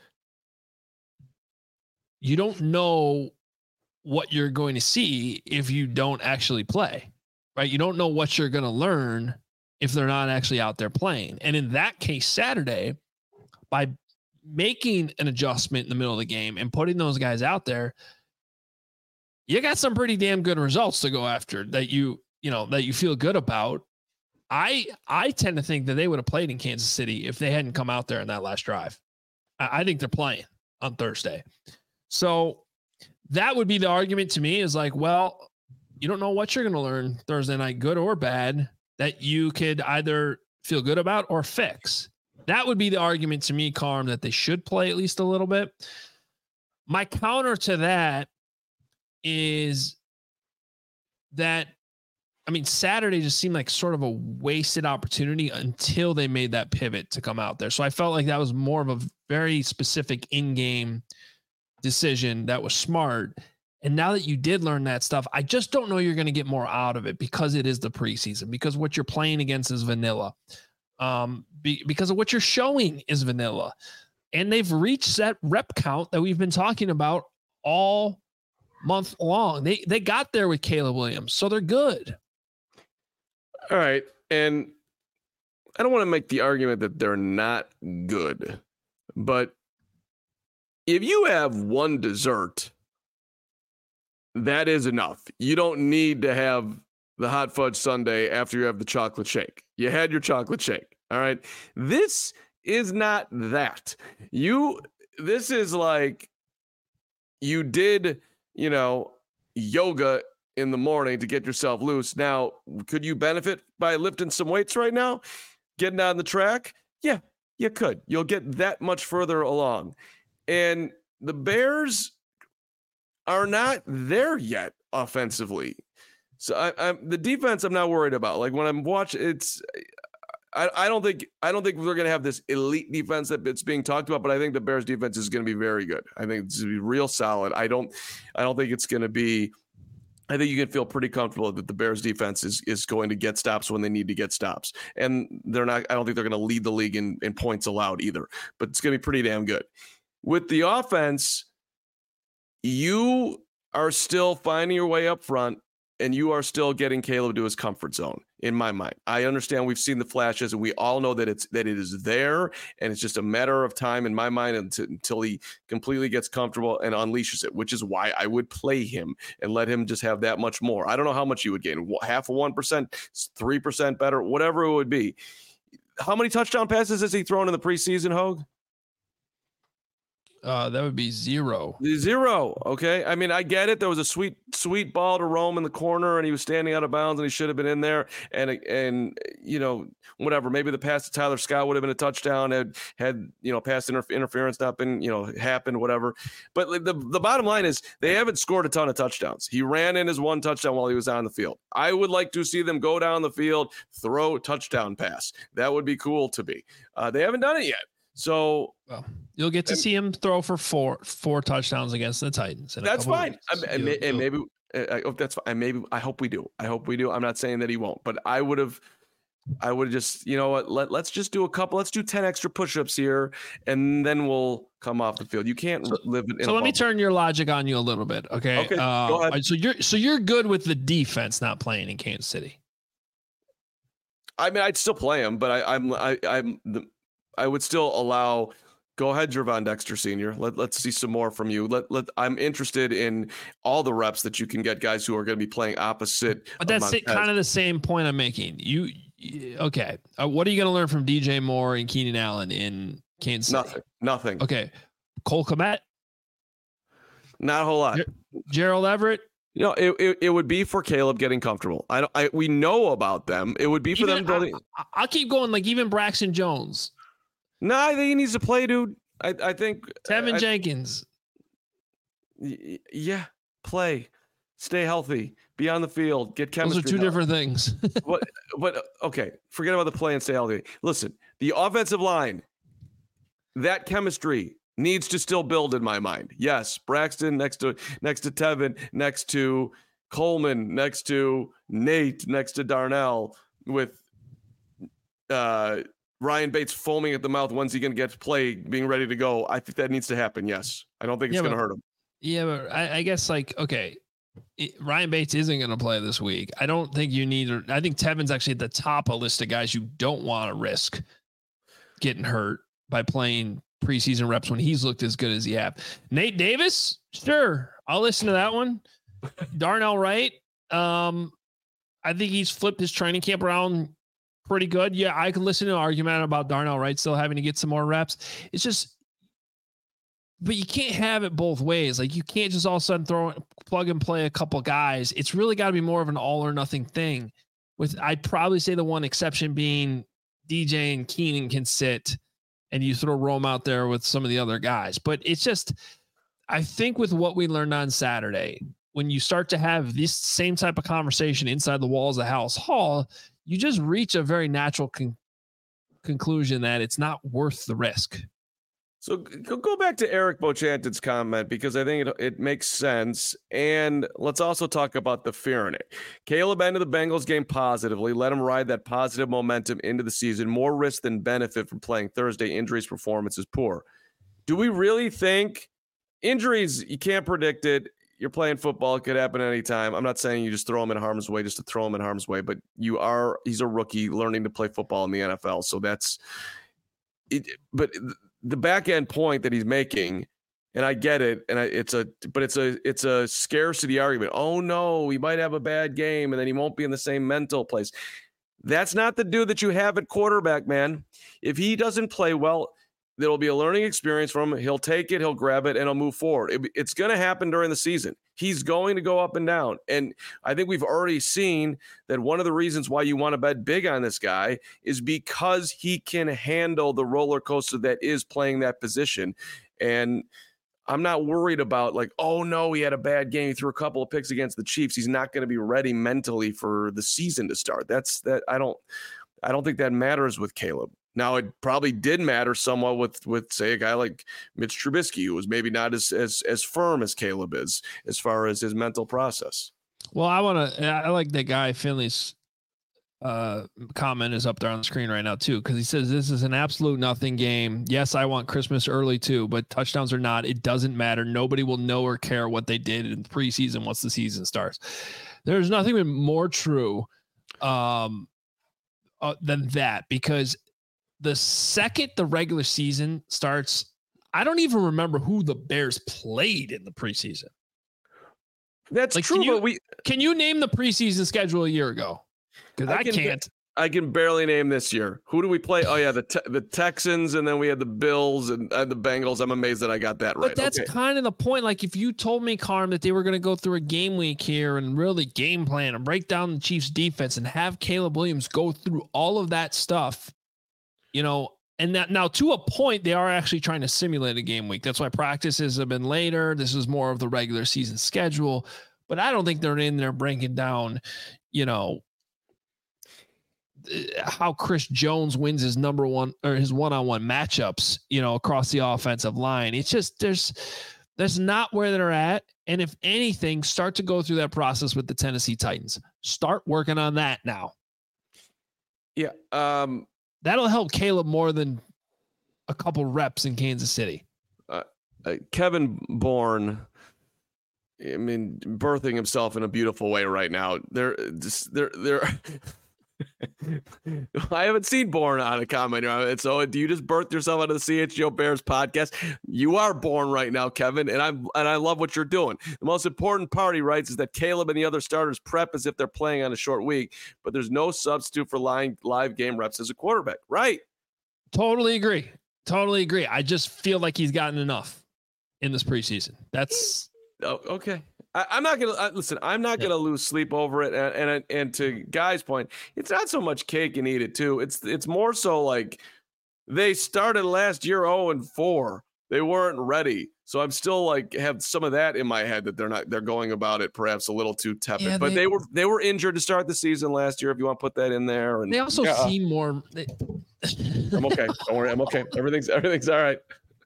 you don't know what you're going to see if you don't actually play, right? You don't know what you're going to learn if they're not actually out there playing. And in that case, Saturday, by making an adjustment in the middle of the game and putting those guys out there, you got some pretty damn good results to go after that you feel good about. I tend to think that they would have played in Kansas City if they hadn't come out there in that last drive. I think they're playing on Thursday. So that would be the argument to me, is like, well, you don't know what you're going to learn Thursday night, good or bad, that you could either feel good about or fix. That would be the argument to me, Carm, that they should play at least a little bit. My counter to that is that, I mean, Saturday just seemed like sort of a wasted opportunity until they made that pivot to come out there. So I felt like that was more of a very specific in-game decision that was smart. And now that you did learn that stuff, I just don't know you're going to get more out of it because it is the preseason, because what you're playing against is vanilla, because of what you're showing is vanilla. And they've reached that rep count that we've been talking about all month long. They got there with Caleb Williams, so they're good. All right. And I don't want to make the argument that they're not good, but if you have one dessert, that is enough. You don't need to have the hot fudge sundae after you have the chocolate shake. You had your chocolate shake. All right. This is not that. This is like you did, yoga in the morning to get yourself loose. Now, could you benefit by lifting some weights right now? Getting on the track? Yeah, you could. You'll get that much further along. And the Bears are not there yet offensively. So the defense I'm not worried about. Like when I'm watching, I don't think we're going to have this elite defense that it's being talked about, but I think the Bears defense is going to be very good. I think it's going to be real solid. I don't think it's going to be, I think you can feel pretty comfortable that the Bears defense is going to get stops when they need to get stops. And I don't think they're going to lead the league in points allowed either, but it's going to be pretty damn good. With the offense, you are still finding your way up front, and you are still getting Caleb to his comfort zone, in my mind. I understand we've seen the flashes, and we all know that it is there, and it's just a matter of time, in my mind, until he completely gets comfortable and unleashes it, which is why I would play him and let him just have that much more. I don't know how much you would gain, half of 1%, 3% better, whatever it would be. How many touchdown passes has he thrown in the preseason, Hogue? That would be 0. 0. Okay. I mean, I get it. There was a sweet ball to Rome in the corner, and he was standing out of bounds, and he should have been in there. And whatever. Maybe the pass to Tyler Scott would have been a touchdown had pass interference not been happened, whatever. But the bottom line is they haven't scored a ton of touchdowns. He ran in his one touchdown while he was on the field. I would like to see them go down the field, throw touchdown pass. That would be cool to be. They haven't done it yet. So you'll get to see him throw for four touchdowns against the Titans. That's fine. Maybe I hope that's fine. Maybe I hope we do. I'm not saying that he won't, but I would have just, let's just do let's do 10 extra push-ups here, and then we'll come off the field. You can't live in. So let me turn your logic on you a little bit. Okay. Go ahead. So you're good with the defense not playing in Kansas City. I mean, I'd still play him, but I would still allow. Go ahead, Gervon Dexter Sr. Let's see some more from you. I'm interested in all the reps that you can get guys who are going to be playing opposite. But that's kind of the same point I'm making. Okay. What are you going to learn from DJ Moore and Keenan Allen in Kansas City? Nothing. Okay. Cole Kmet? Not a whole lot. Gerald Everett? It would be for Caleb getting comfortable. We know about them. It would be for them building. I'll keep going. Like even Braxton Jones. No, I think he needs to play, dude. I think Tevin Jenkins. Yeah, play, stay healthy, be on the field, get chemistry. Those are two different things. But okay, forget about the play and stay healthy. Listen, the offensive line, that chemistry needs to still build in my mind. Yes, Braxton next to Tevin, next to Coleman, next to Nate, next to Darnell, with Ryan Bates foaming at the mouth. When's he going to get to play, being ready to go? I think that needs to happen. Yes. I don't think it's going to hurt him. Yeah, but I guess Ryan Bates isn't going to play this week. I don't think you need. I think Tevin's actually at the top of a list of guys you don't want to risk getting hurt by playing preseason reps when he's looked as good as he have. Nate Davis, sure, I'll listen to that one. Darnell Wright, I think he's flipped his training camp around pretty good. Yeah, I can listen to an argument about Darnell Wright still having to get some more reps. It's just, but you can't have it both ways. Like you can't just all of a sudden plug and play a couple guys. It's really got to be more of an all or nothing thing. I'd probably say the one exception being DJ and Keenan can sit and you throw Rome out there with some of the other guys. But it's just, I think with what we learned on Saturday, when you start to have this same type of conversation inside the walls of Halas Hall, you just reach a very natural conclusion that it's not worth the risk. So go back to Eric Bochantin's comment, because I think it makes sense. And let's also talk about the fear in it. Caleb ended the Bengals game positively. Let him ride that positive momentum into the season. More risk than benefit from playing Thursday. Injuries, performance is poor. Do we really think injuries, you can't predict it? You're playing football. It could happen anytime. I'm not saying you just throw him in harm's way just to throw him in harm's way, but he's a rookie learning to play football in the NFL. So that's it. But the back end point that he's making, and I get it, and it's a scarcity argument. Oh no, he might have a bad game and then he won't be in the same mental place. That's not the dude that you have at quarterback, man. If he doesn't play well, there'll be a learning experience for him. He'll take it, he'll grab it, and he'll move forward. It's going to happen during the season. He's going to go up and down. And I think we've already seen that one of the reasons why you want to bet big on this guy is because he can handle the roller coaster that is playing that position. And I'm not worried about like, oh no, he had a bad game. He threw a couple of picks against the Chiefs. He's not going to be ready mentally for the season to start. I don't think that matters with Caleb. Now, it probably did matter somewhat with say, a guy like Mitch Trubisky, who was maybe not as firm as Caleb is as far as his mental process. Well, I like that guy Finley's comment is up there on the screen right now too, because he says this is an absolute nothing game. Yes, I want Christmas early too, but touchdowns or not, it doesn't matter. Nobody will know or care what they did in the preseason once the season starts. There's nothing more true than that, because the second the regular season starts, I don't even remember who the Bears played in the preseason. That's like, true. Can you name the preseason schedule a year ago? Because I can't. I can barely name this year. Who do we play? Oh yeah, the Texans, and then we had the Bills and the Bengals. I'm amazed that I got that right. But that's kind of the point. Like if you told me, Carm, that they were going to go through a game week here and really game plan and break down the Chiefs defense and have Caleb Williams go through all of that stuff, you know, and that now to a point, they are actually trying to simulate a game week. That's why practices have been later. This is more of the regular season schedule, but I don't think they're in there breaking down, you know, how Chris Jones wins his number one or his one-on-one matchups, you know, across the offensive line. It's just, that's not where they're at. And if anything, start to go through that process with the Tennessee Titans. Start working on that now. Yeah. That'll help Caleb more than a couple reps in Kansas City. Kevin Bourne, I mean, birthing himself in a beautiful way right now. They're I haven't seen Bourne on a comment. So do you just birth yourself out of the CHGO Bears podcast? You are born right now, Kevin, and I love what you're doing. The most important part, he writes, is that Caleb and the other starters prep as if they're playing on a short week, but there's no substitute for live game reps as a quarterback. Right. Totally agree. I just feel like he's gotten enough in this preseason. That's okay. I'm not gonna listen. I'm not gonna lose sleep over it. And to Guy's point, it's not so much cake and eat it too. It's more so like they started last year 0-4. They weren't ready. So I'm still like have some of that in my head that they're going about it perhaps a little too tepid. Yeah, but they were injured to start the season last year. If you want to put that in there, and they also seem more. I'm okay. Don't worry. I'm okay. Everything's all right.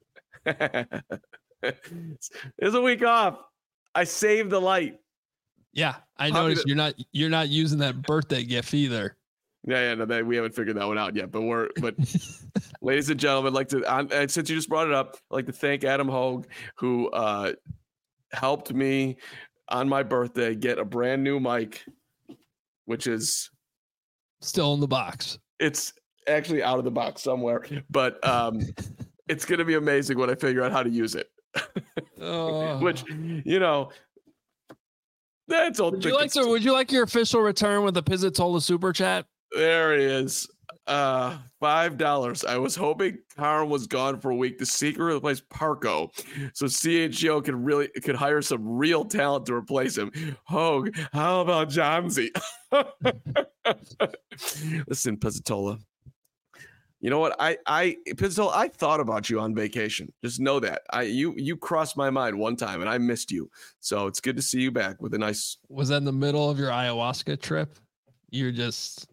There's a week off. I saved the light. Yeah, I noticed you're not using that birthday gift either. Yeah, no, we haven't figured that one out yet. But ladies and gentlemen, and since you just brought it up, I'd like to thank Adam Hogue, who helped me on my birthday get a brand new mic, which is still in the box. It's actually out of the box somewhere, but it's going to be amazing when I figure out how to use it. Which, you know, That's all. Would you like your official return with the Pizzatola super chat? There he is. $5. I was hoping Carm was gone for a week to secretly replace Parco, so CHGO could hire some real talent to replace him. Hogue, how about Johnsy? Listen, Pizzatola. You know what? Pizzatola, I thought about you on vacation. Just know that. You crossed my mind one time and I missed you. So it's good to see you back with a nice. Was that in the middle of your ayahuasca trip? You're just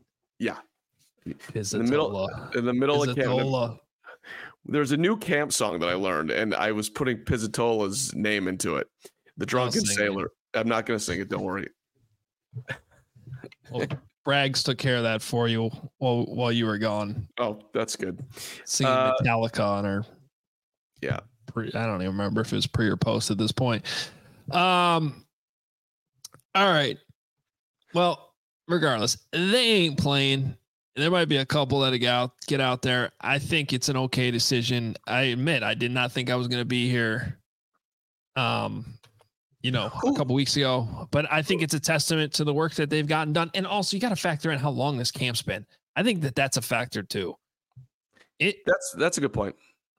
Pizzatola. In the middle of camp. There's a new camp song that I learned, and I was putting Pizzatola's name into it. The Drunken Sailor. I'm not going to sing it. Don't worry. Well, Braggs took care of that for you while you were gone. Oh, that's good. Singing Metallica on her. Yeah. I don't even remember if it was pre or post at this point. All right. Well, regardless, they ain't playing. There might be a couple that get out there. I think it's an okay decision. I admit I did not think I was going to be here, a couple weeks ago. But I think it's a testament to the work that they've gotten done. And also, you got to factor in how long this camp's been. I think that's a factor too. That's a good point.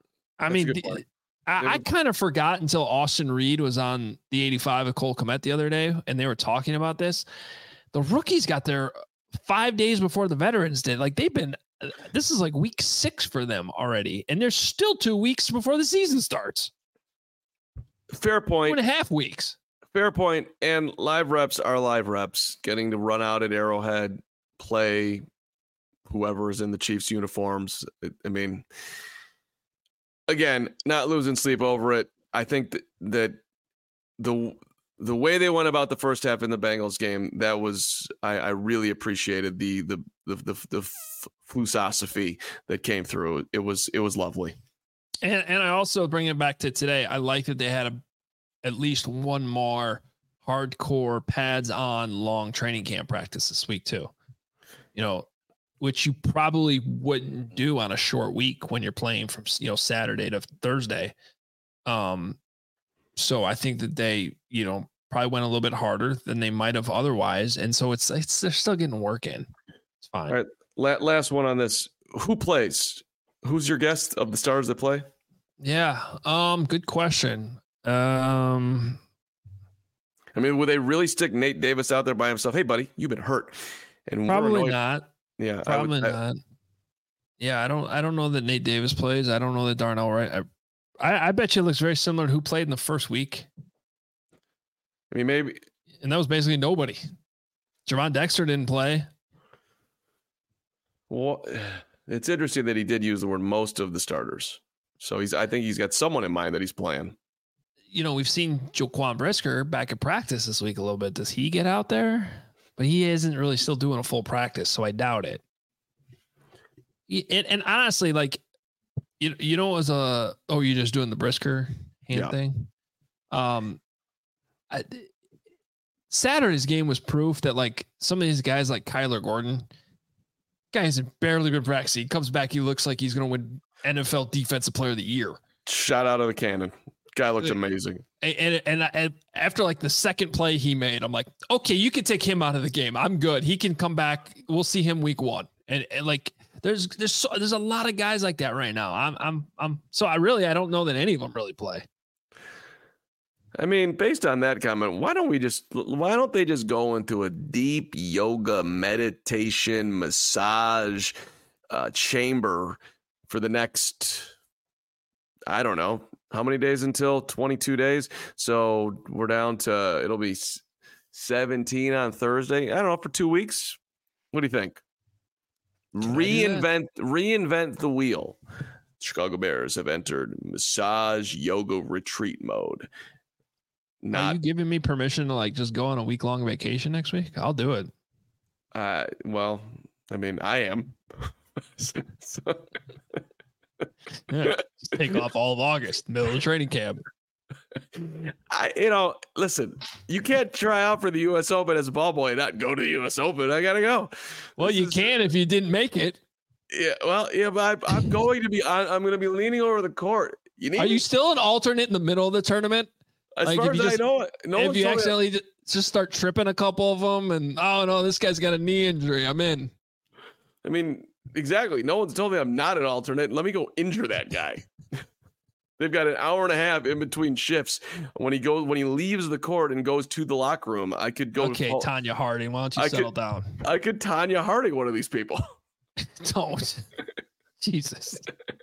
I kind of forgot until Austin Reed was on the 85 of Cole Kmet the other day, and they were talking about this. The rookies got there 5 days before the veterans did. Like this is like week 6 for them already. And there's still 2 weeks before the season starts. Fair point. 2.5 weeks. Fair point. And live reps are live reps. Getting to run out at Arrowhead, play whoever is in the Chiefs uniforms. I mean, again, not losing sleep over it. I think that the way they went about the first half in the Bengals game, that was I really appreciated the philosophy that came through. It was lovely. And I also bring it back to today. I like that they had at least one more hardcore pads on long training camp practice this week too. Which you probably wouldn't do on a short week when you're playing from Saturday to Thursday. So I think that they, probably went a little bit harder than they might have otherwise. And so they're still getting work in. It's fine. All right. Last one on this. Who plays? Who's your guest of the stars that play? Yeah. Good question. I mean, would they really stick Nate Davis out there by himself? Hey, buddy, you've been hurt. And probably not. Yeah. Probably not. Yeah. I don't know that Nate Davis plays. I don't know that Darnell Wright. I bet you it looks very similar to who played in the first week. I mean, maybe. And that was basically nobody. Javon Dexter didn't play. Well, it's interesting that he did use the word most of the starters. So I think he's got someone in mind that he's playing. We've seen Jaquan Brisker back at practice this week a little bit. Does he get out there? But he isn't really still doing a full practice, so I doubt it. And honestly, like, it was you're just doing the Brisker hand thing. Saturday's game was proof that like some of these guys like Kyler Gordon, guys have barely been practicing. He comes back, he looks like he's going to win NFL Defensive Player of the Year. Shot out of the cannon. Guy looks amazing. And after like the second play he made, I'm like, okay, you can take him out of the game. I'm good. He can come back. We'll see him week 1. And like there's a lot of guys like that right now. I don't know that any of them really play. I mean, based on that comment, why don't they just go into a deep yoga, meditation, massage chamber for the next, I don't know, how many days until 22 days? So we're down to, it'll be 17 on Thursday. I don't know, for 2 weeks. What do you think? Reinvent the wheel. Chicago Bears have entered massage yoga retreat mode. Are you giving me permission to like just go on a week-long vacation next week? I'll do it. Well, I mean, I am. Yeah, just take off all of August, middle of training camp. Listen, you can't try out for the U.S. Open as a ball boy and not go to the U.S. Open. I gotta go. Well, you can if you didn't make it. Yeah, well, yeah, but I'm going to be leaning over the court. Are you still an alternate in the middle of the tournament? As Like, far if as you I just- know, no if one's you told me that. accidentally just start tripping a couple of them, and oh no, this guy's got a knee injury, I'm in. I mean, exactly. No one's told me I'm not an alternate. Let me go injure that guy. They've got an hour and a half in between shifts. When he leaves the court and goes to the locker room, I could go. Okay, Tanya Harding, why don't you I settle could- down? I could Tanya Harding one of these people. Don't. Jesus.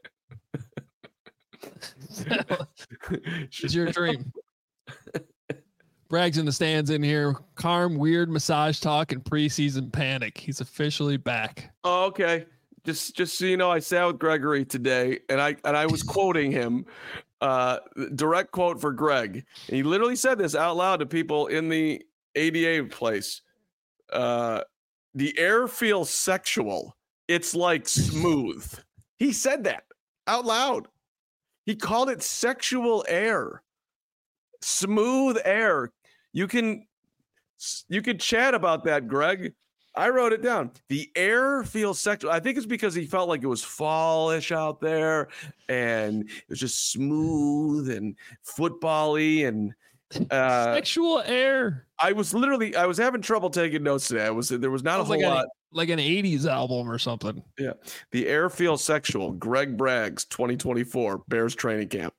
It's your dream. Bragg's in the stands in here. Carm, weird massage talk and preseason panic. He's officially back. Oh, okay. Just so you know, I sat with Gregory today, and I was quoting him, direct quote for Greg. And he literally said this out loud to people in the ADA place. The air feels sexual. It's like smooth. He said that out loud. He called it sexual air, smooth air. You can chat about that, Greg. I wrote it down. The air feels sexual. I think it's because he felt like it was fallish out there, and it was just smooth and football-y and Sexual air. I was having trouble taking notes today. There was not a Sounds whole lot. like an 80s album or something. Yeah. The air feels sexual. Greg Braggs, 2024 Bears training camp.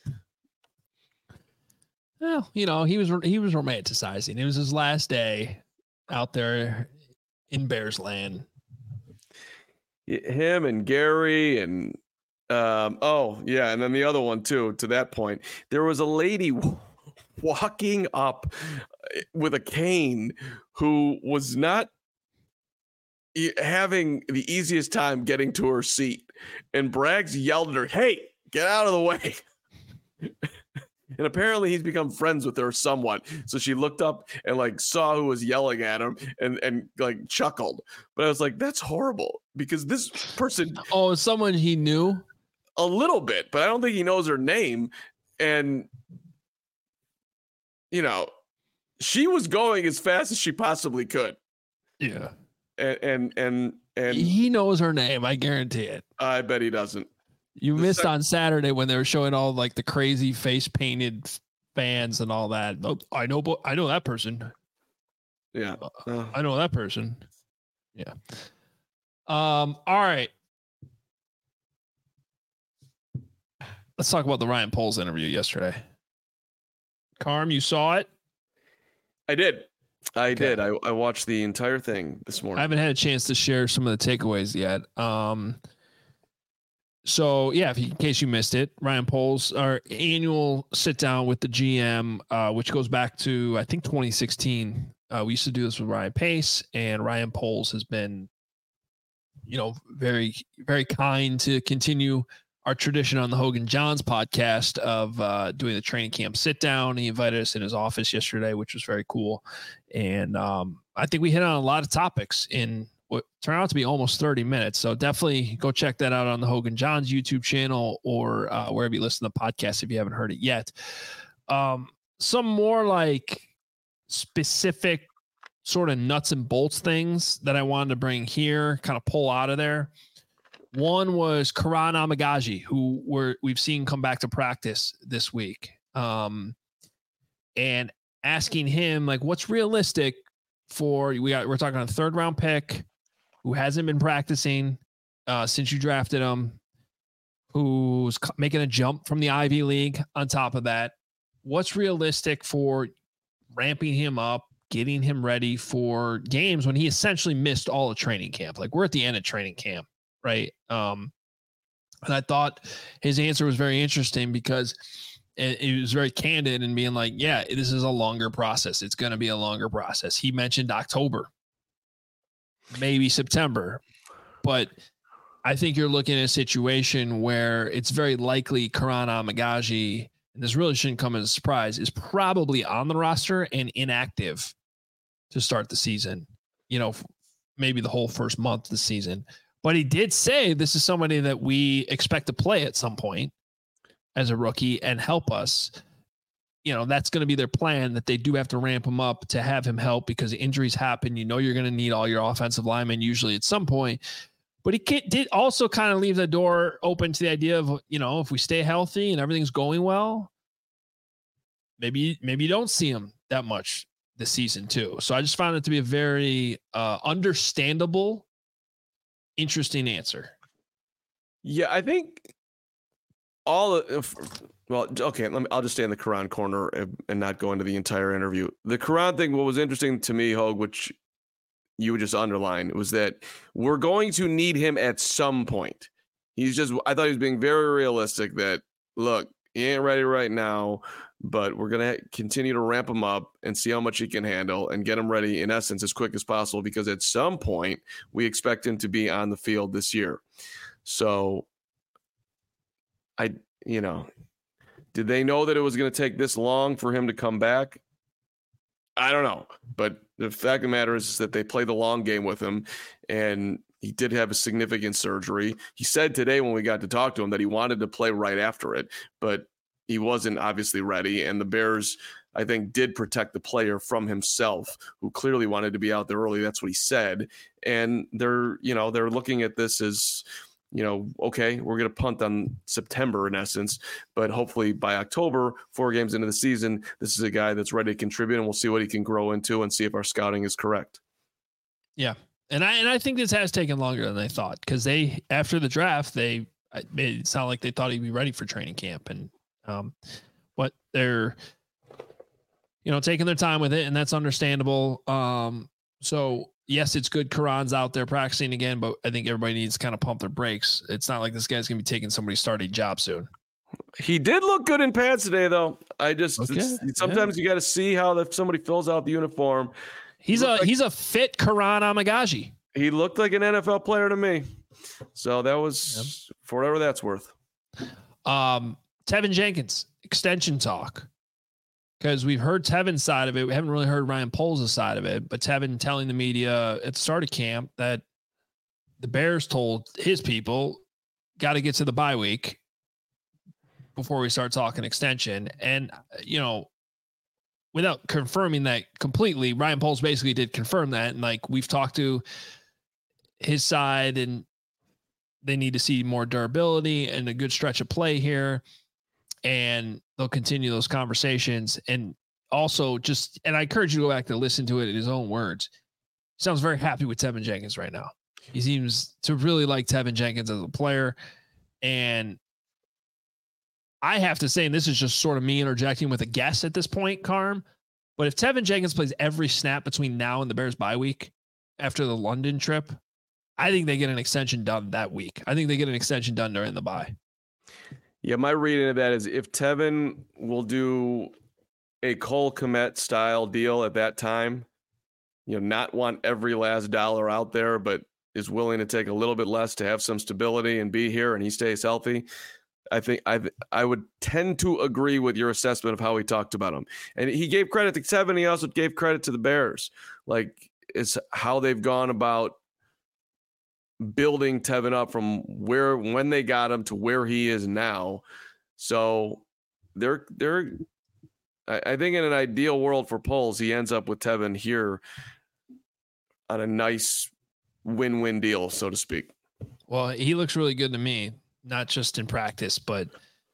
Well, he was romanticizing. It was his last day out there in Bears land. Him and Gary and and then the other one too. To that point, there was a lady walking up with a cane who was not having the easiest time getting to her seat, and Braggs yelled at her, "Hey, get out of the way!" And apparently he's become friends with her somewhat. So she looked up and like saw who was yelling at him and like chuckled. But I was like, that's horrible, because this person, Oh, someone he knew. a little bit, but I don't think he knows her name. And she was going as fast as she possibly could. Yeah. And He knows her name. I guarantee it. I bet he doesn't. You missed on Saturday when they were showing all like the crazy face painted fans and all that. Oh, I know that person. Yeah. I know that person. Yeah. All right. Let's talk about the Ryan Poles interview yesterday. Carm, you saw it? I did. I did. I watched the entire thing this morning. I haven't had a chance to share some of the takeaways yet. So yeah, in case you missed it, Ryan Poles, our annual sit down with the GM, which goes back to, I think, 2016. We used to do this with Ryan Pace, and Ryan Poles has been, very, very kind to continue our tradition on the Hogan Johns podcast of doing the training camp sit down. He invited us in his office yesterday, which was very cool. And I think we hit on a lot of topics in what turned out to be almost 30 minutes. So definitely go check that out on the Hogan Johns YouTube channel or wherever you listen to podcasts if you haven't heard it yet. Some more like specific sort of nuts and bolts things that I wanted to bring here, kind of pull out of there. One was Karan Amagaji, who we've seen come back to practice this week, and asking him like, what's realistic for we're talking a 3rd round pick who hasn't been practicing since you drafted him, who's making a jump from the Ivy League. On top of that, what's realistic for ramping him up, getting him ready for games when he essentially missed all of training camp? Like, we're at the end of training camp. Right. And I thought his answer was very interesting because it was very candid and being like, yeah, this is a longer process. It's going to be a longer process. He mentioned October, maybe September, but I think you're looking at a situation where it's very likely Karan Amagaji, and this really shouldn't come as a surprise, is probably on the roster and inactive to start the season, maybe the whole first month of the season. But he did say this is somebody that we expect to play at some point as a rookie and help us. That's going to be their plan, that they do have to ramp him up to have him help because injuries happen. You're going to need all your offensive linemen usually at some point. But he did also kind of leave the door open to the idea of, if we stay healthy and everything's going well, maybe you don't see him that much this season too. So I just found it to be a very understandable, interesting answer. Yeah, I think okay, I'll just stay in the Quran corner and not go into the entire interview. The Quran thing, what was interesting to me, Hogue, which you would just underline, was that we're going to need him at some point. I thought he was being very realistic that, look, he ain't ready right now, but we're going to continue to ramp him up and see how much he can handle and get him ready, in essence, as quick as possible, because at some point we expect him to be on the field this year. So did they know that it was going to take this long for him to come back? I don't know. But the fact of the matter is that they played the long game with him, and he did have a significant surgery. He said today when we got to talk to him that he wanted to play right after it, but he wasn't obviously ready. And the Bears, I think, did protect the player from himself, who clearly wanted to be out there early. That's what he said. And they're looking at this as, okay, we're going to punt on September in essence, but hopefully by October, 4 games into the season, this is a guy that's ready to contribute, and we'll see what he can grow into and see if our scouting is correct. Yeah. And I think this has taken longer than they thought, because after the draft, it made it sound like they thought he'd be ready for training camp, and but they're, taking their time with it, and that's understandable. So yes, it's good Quran's out there practicing again, but I think everybody needs to kind of pump their brakes. It's not like this guy's going to be taking somebody's starting job soon. He did look good in pants today, though. Sometimes you got to see how if somebody fills out the uniform. He's a fit Quran Amagaji. He looked like an NFL player to me. So that was for whatever that's worth. Tevin Jenkins, extension talk. Because we've heard Tevin's side of it. We haven't really heard Ryan Poles' side of it. But Tevin telling the media at the start of camp that the Bears told his people, got to get to the bye week before we start talking extension. And, without confirming that completely, Ryan Poles basically did confirm that. And we've talked to his side, and they need to see more durability and a good stretch of play here. And they'll continue those conversations. And also and I encourage you to go back to listen to it in his own words. He sounds very happy with Tevin Jenkins right now. He seems to really like Tevin Jenkins as a player. And I have to say, and this is just sort of me interjecting with a guess at this point, Carm, but if Tevin Jenkins plays every snap between now and the Bears bye week after the London trip, I think they get an extension done that week. I think they get an extension done during the bye. Yeah, my reading of that is if Tevin will do a Cole Kmet style deal at that time, not want every last dollar out there, but is willing to take a little bit less to have some stability and be here, and he stays healthy, I think I would tend to agree with your assessment of how he talked about him. And he gave credit to Tevin. He also gave credit to the Bears. It's how they've gone about building Tevin up from when they got him to where he is now. So I think in an ideal world for Poles, he ends up with Tevin here on a nice win-win deal, so to speak. Well, he looks really good to me, not just in practice, but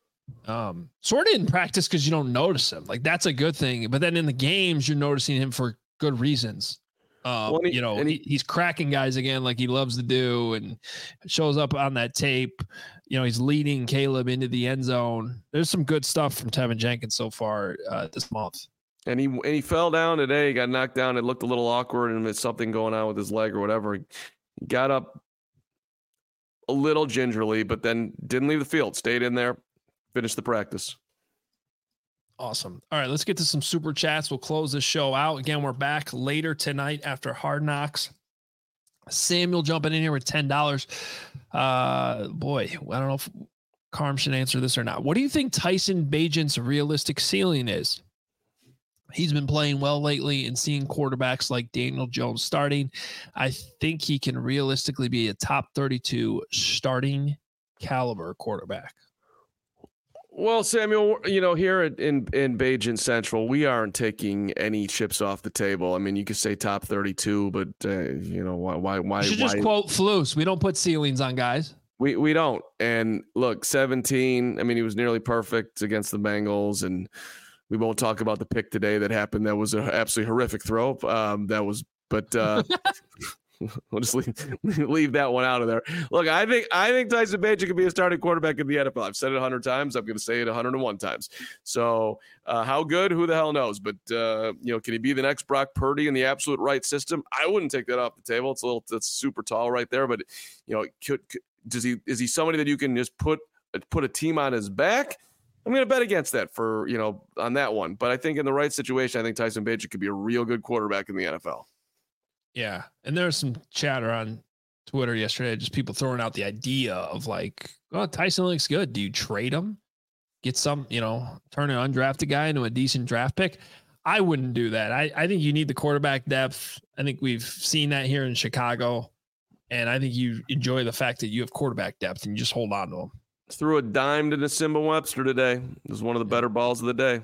sort of in practice because you don't notice him. That's a good thing. But then in the games, you're noticing him for good reasons. He's cracking guys again like he loves to do, and shows up on that tape. He's leading Caleb into the end zone. There's some good stuff from Tevin Jenkins so far this month. And he fell down today. He got knocked down. It looked a little awkward, and there's something going on with his leg or whatever. He got up a little gingerly, but then didn't leave the field. Stayed in there, finished the practice. Awesome. All right, let's get to some super chats. We'll close this show out. Again, we're back later tonight after Hard Knocks. Samuel jumping in here with $10. Boy, I don't know if Carm should answer this or not. What do you think Tyson Bagent's realistic ceiling is? He's been playing well lately and seeing quarterbacks like Daniel Jones starting. I think he can realistically be a top 32 starting caliber quarterback. Well, Samuel, here in Bagent Central, we aren't taking any chips off the table. I mean, you could say top 32, but why? You should just quote Flus. We don't put ceilings on guys. We don't. And look, 17. I mean, he was nearly perfect against the Bengals, and We won't talk about the pick today that happened. That was an absolutely horrific throw. We'll just leave that one out of there. Look, I think Tyson Bagent could be a starting quarterback in the NFL. I've said it 100 times. I'm going to say it 101 times. So how good? Who the hell knows? But can he be the next Brock Purdy in the absolute right system? I wouldn't take that off the table. That's super tall right there. But is he somebody that you can just put a team on his back? I'm going to bet against that on that one. But I think in the right situation, I think Tyson Bagent could be a real good quarterback in the NFL. Yeah. And there's some chatter on Twitter yesterday, just people throwing out the idea of Tyson looks good. Do you trade him? Get some, turn an undrafted guy into a decent draft pick? I wouldn't do that. I think you need the quarterback depth. I think we've seen that here in Chicago. And I think you enjoy the fact that you have quarterback depth and you just hold on to him. Threw a dime to Nsimba Webster today. It was one of the better balls of the day.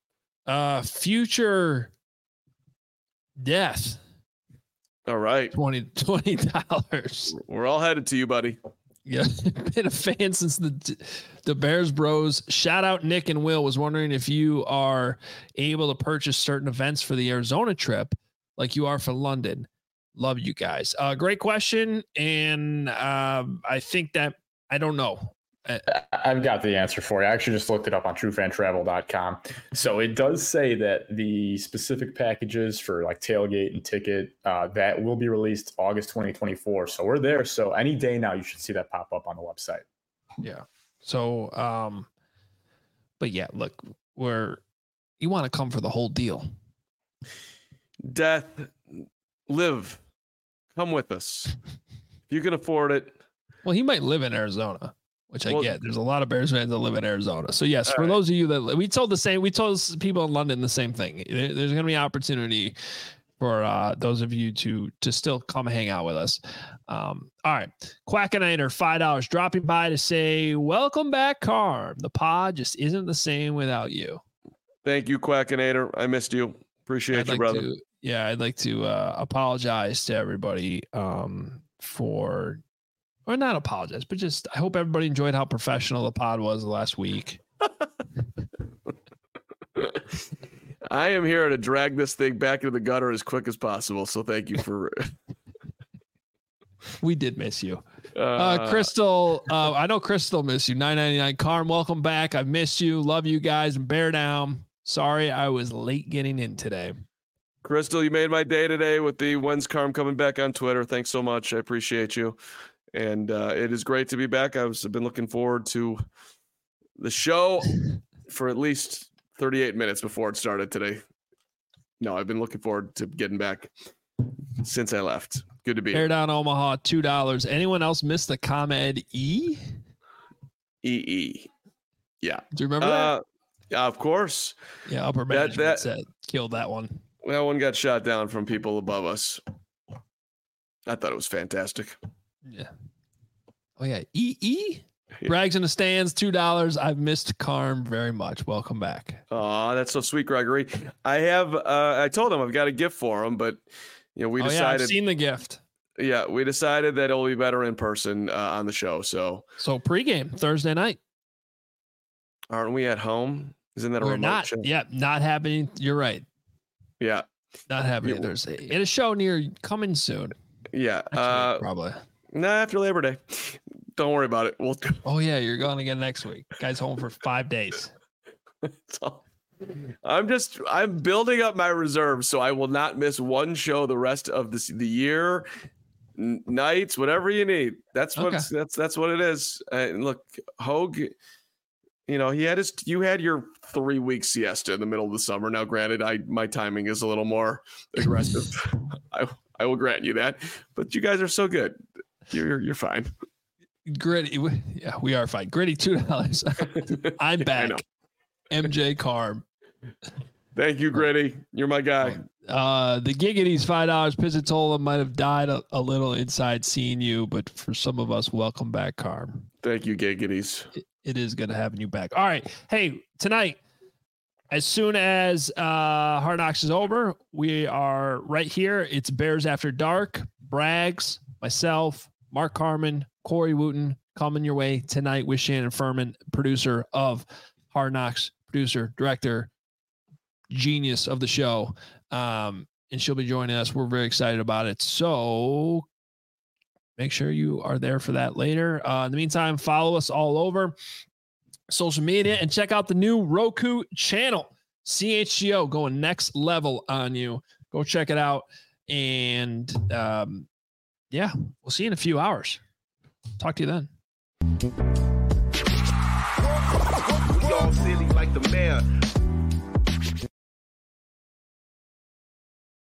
Future death. All right. $20. We're all headed to you, buddy. Yeah. Been a fan since the Bears Bros. Shout out Nick and Will. Was wondering if you are able to purchase certain events for the Arizona trip like you are for London. Love you guys. Great question. And I think that I don't know. I've got the answer for you. I actually just looked it up on truefantravel.com. So it does say that the specific packages for like tailgate and ticket that will be released August 2024. So we're there. So any day now, you should see that pop up on the website. Yeah. So, but yeah, look, you want to come for the whole deal. Death, live, come with us. If you can afford it. Well, he might live in Arizona. Which I get. There's a lot of Bears fans that live in Arizona. So yes, for those of you that we told people in London the same thing. There's going to be opportunity for those of you to still come hang out with us. All right. Quackinator, $5 dropping by to say, welcome back, Carm. The pod just isn't the same without you. Thank you, Quackinator. I missed you. Appreciate you, brother. I'd like to apologize to everybody or not apologize, but just I hope everybody enjoyed how professional the pod was last week. I am here to drag this thing back into the gutter as quick as possible. So thank you for. We did miss you. Crystal. I know Crystal missed you. $9.99. Carm, welcome back. I've missed you. Love you guys. And bear down. Sorry, I was late getting in today. Crystal, you made my day today with the When's Carm coming back on Twitter. Thanks so much. I appreciate you. And it is great to be back. I've been looking forward to the show for at least 38 minutes before it started today. No, I've been looking forward to getting back since I left. Good to be here. Down Omaha, $2. Anyone else miss the ComEd E? EE. Yeah. Do you remember that? Yeah, of course. Yeah, upper management said killed that one. That one got shot down from people above us. I thought it was fantastic. Yeah. Oh yeah. EE brags in the stands, $2. I've missed Carm very much. Welcome back. Oh, that's so sweet, Gregory. I told him I've got a gift for him, but we decided. I've seen the gift. Yeah, we decided that it'll be better in person on the show. So pregame Thursday night. Aren't we at home? Isn't that a remote show? Yeah, not happening. You're right. Yeah. Not happening Thursday. In a show coming soon. Yeah. Actually, probably. After Labor Day. Don't worry about it. Oh yeah, you're going again next week. Guy's home for 5 days. I'm building up my reserves so I will not miss one show the rest of the year, nights, whatever you need. That's what it is. And look, Hogue, you had your 3-week siesta in the middle of the summer. Now, granted, my timing is a little more aggressive. I will grant you that, but you guys are so good. You're fine. Gritty. Yeah, we are fine. Gritty, $2. I'm back. MJ Carm. Thank you, Gritty. You're my guy. The Giggities, $5. Pizzatola might have died a little inside seeing you, but for some of us, welcome back, Carm. Thank you, Giggities. It is good to having you back. All right. Hey, tonight, as soon as Hard Knocks is over, we are right here. It's Bears After Dark. Braggs, myself, Mark Carman, Corey Wooten coming your way tonight with Shannon Furman, producer of Hard Knocks, producer, director, genius of the show. And she'll be joining us. We're very excited about it. So make sure you are there for that later. In the meantime, follow us all over social media and check out the new Roku channel. CHGO going next level on you. Go check it out. And yeah, we'll see you in a few hours. Talk to you then. We all silly like the mayor.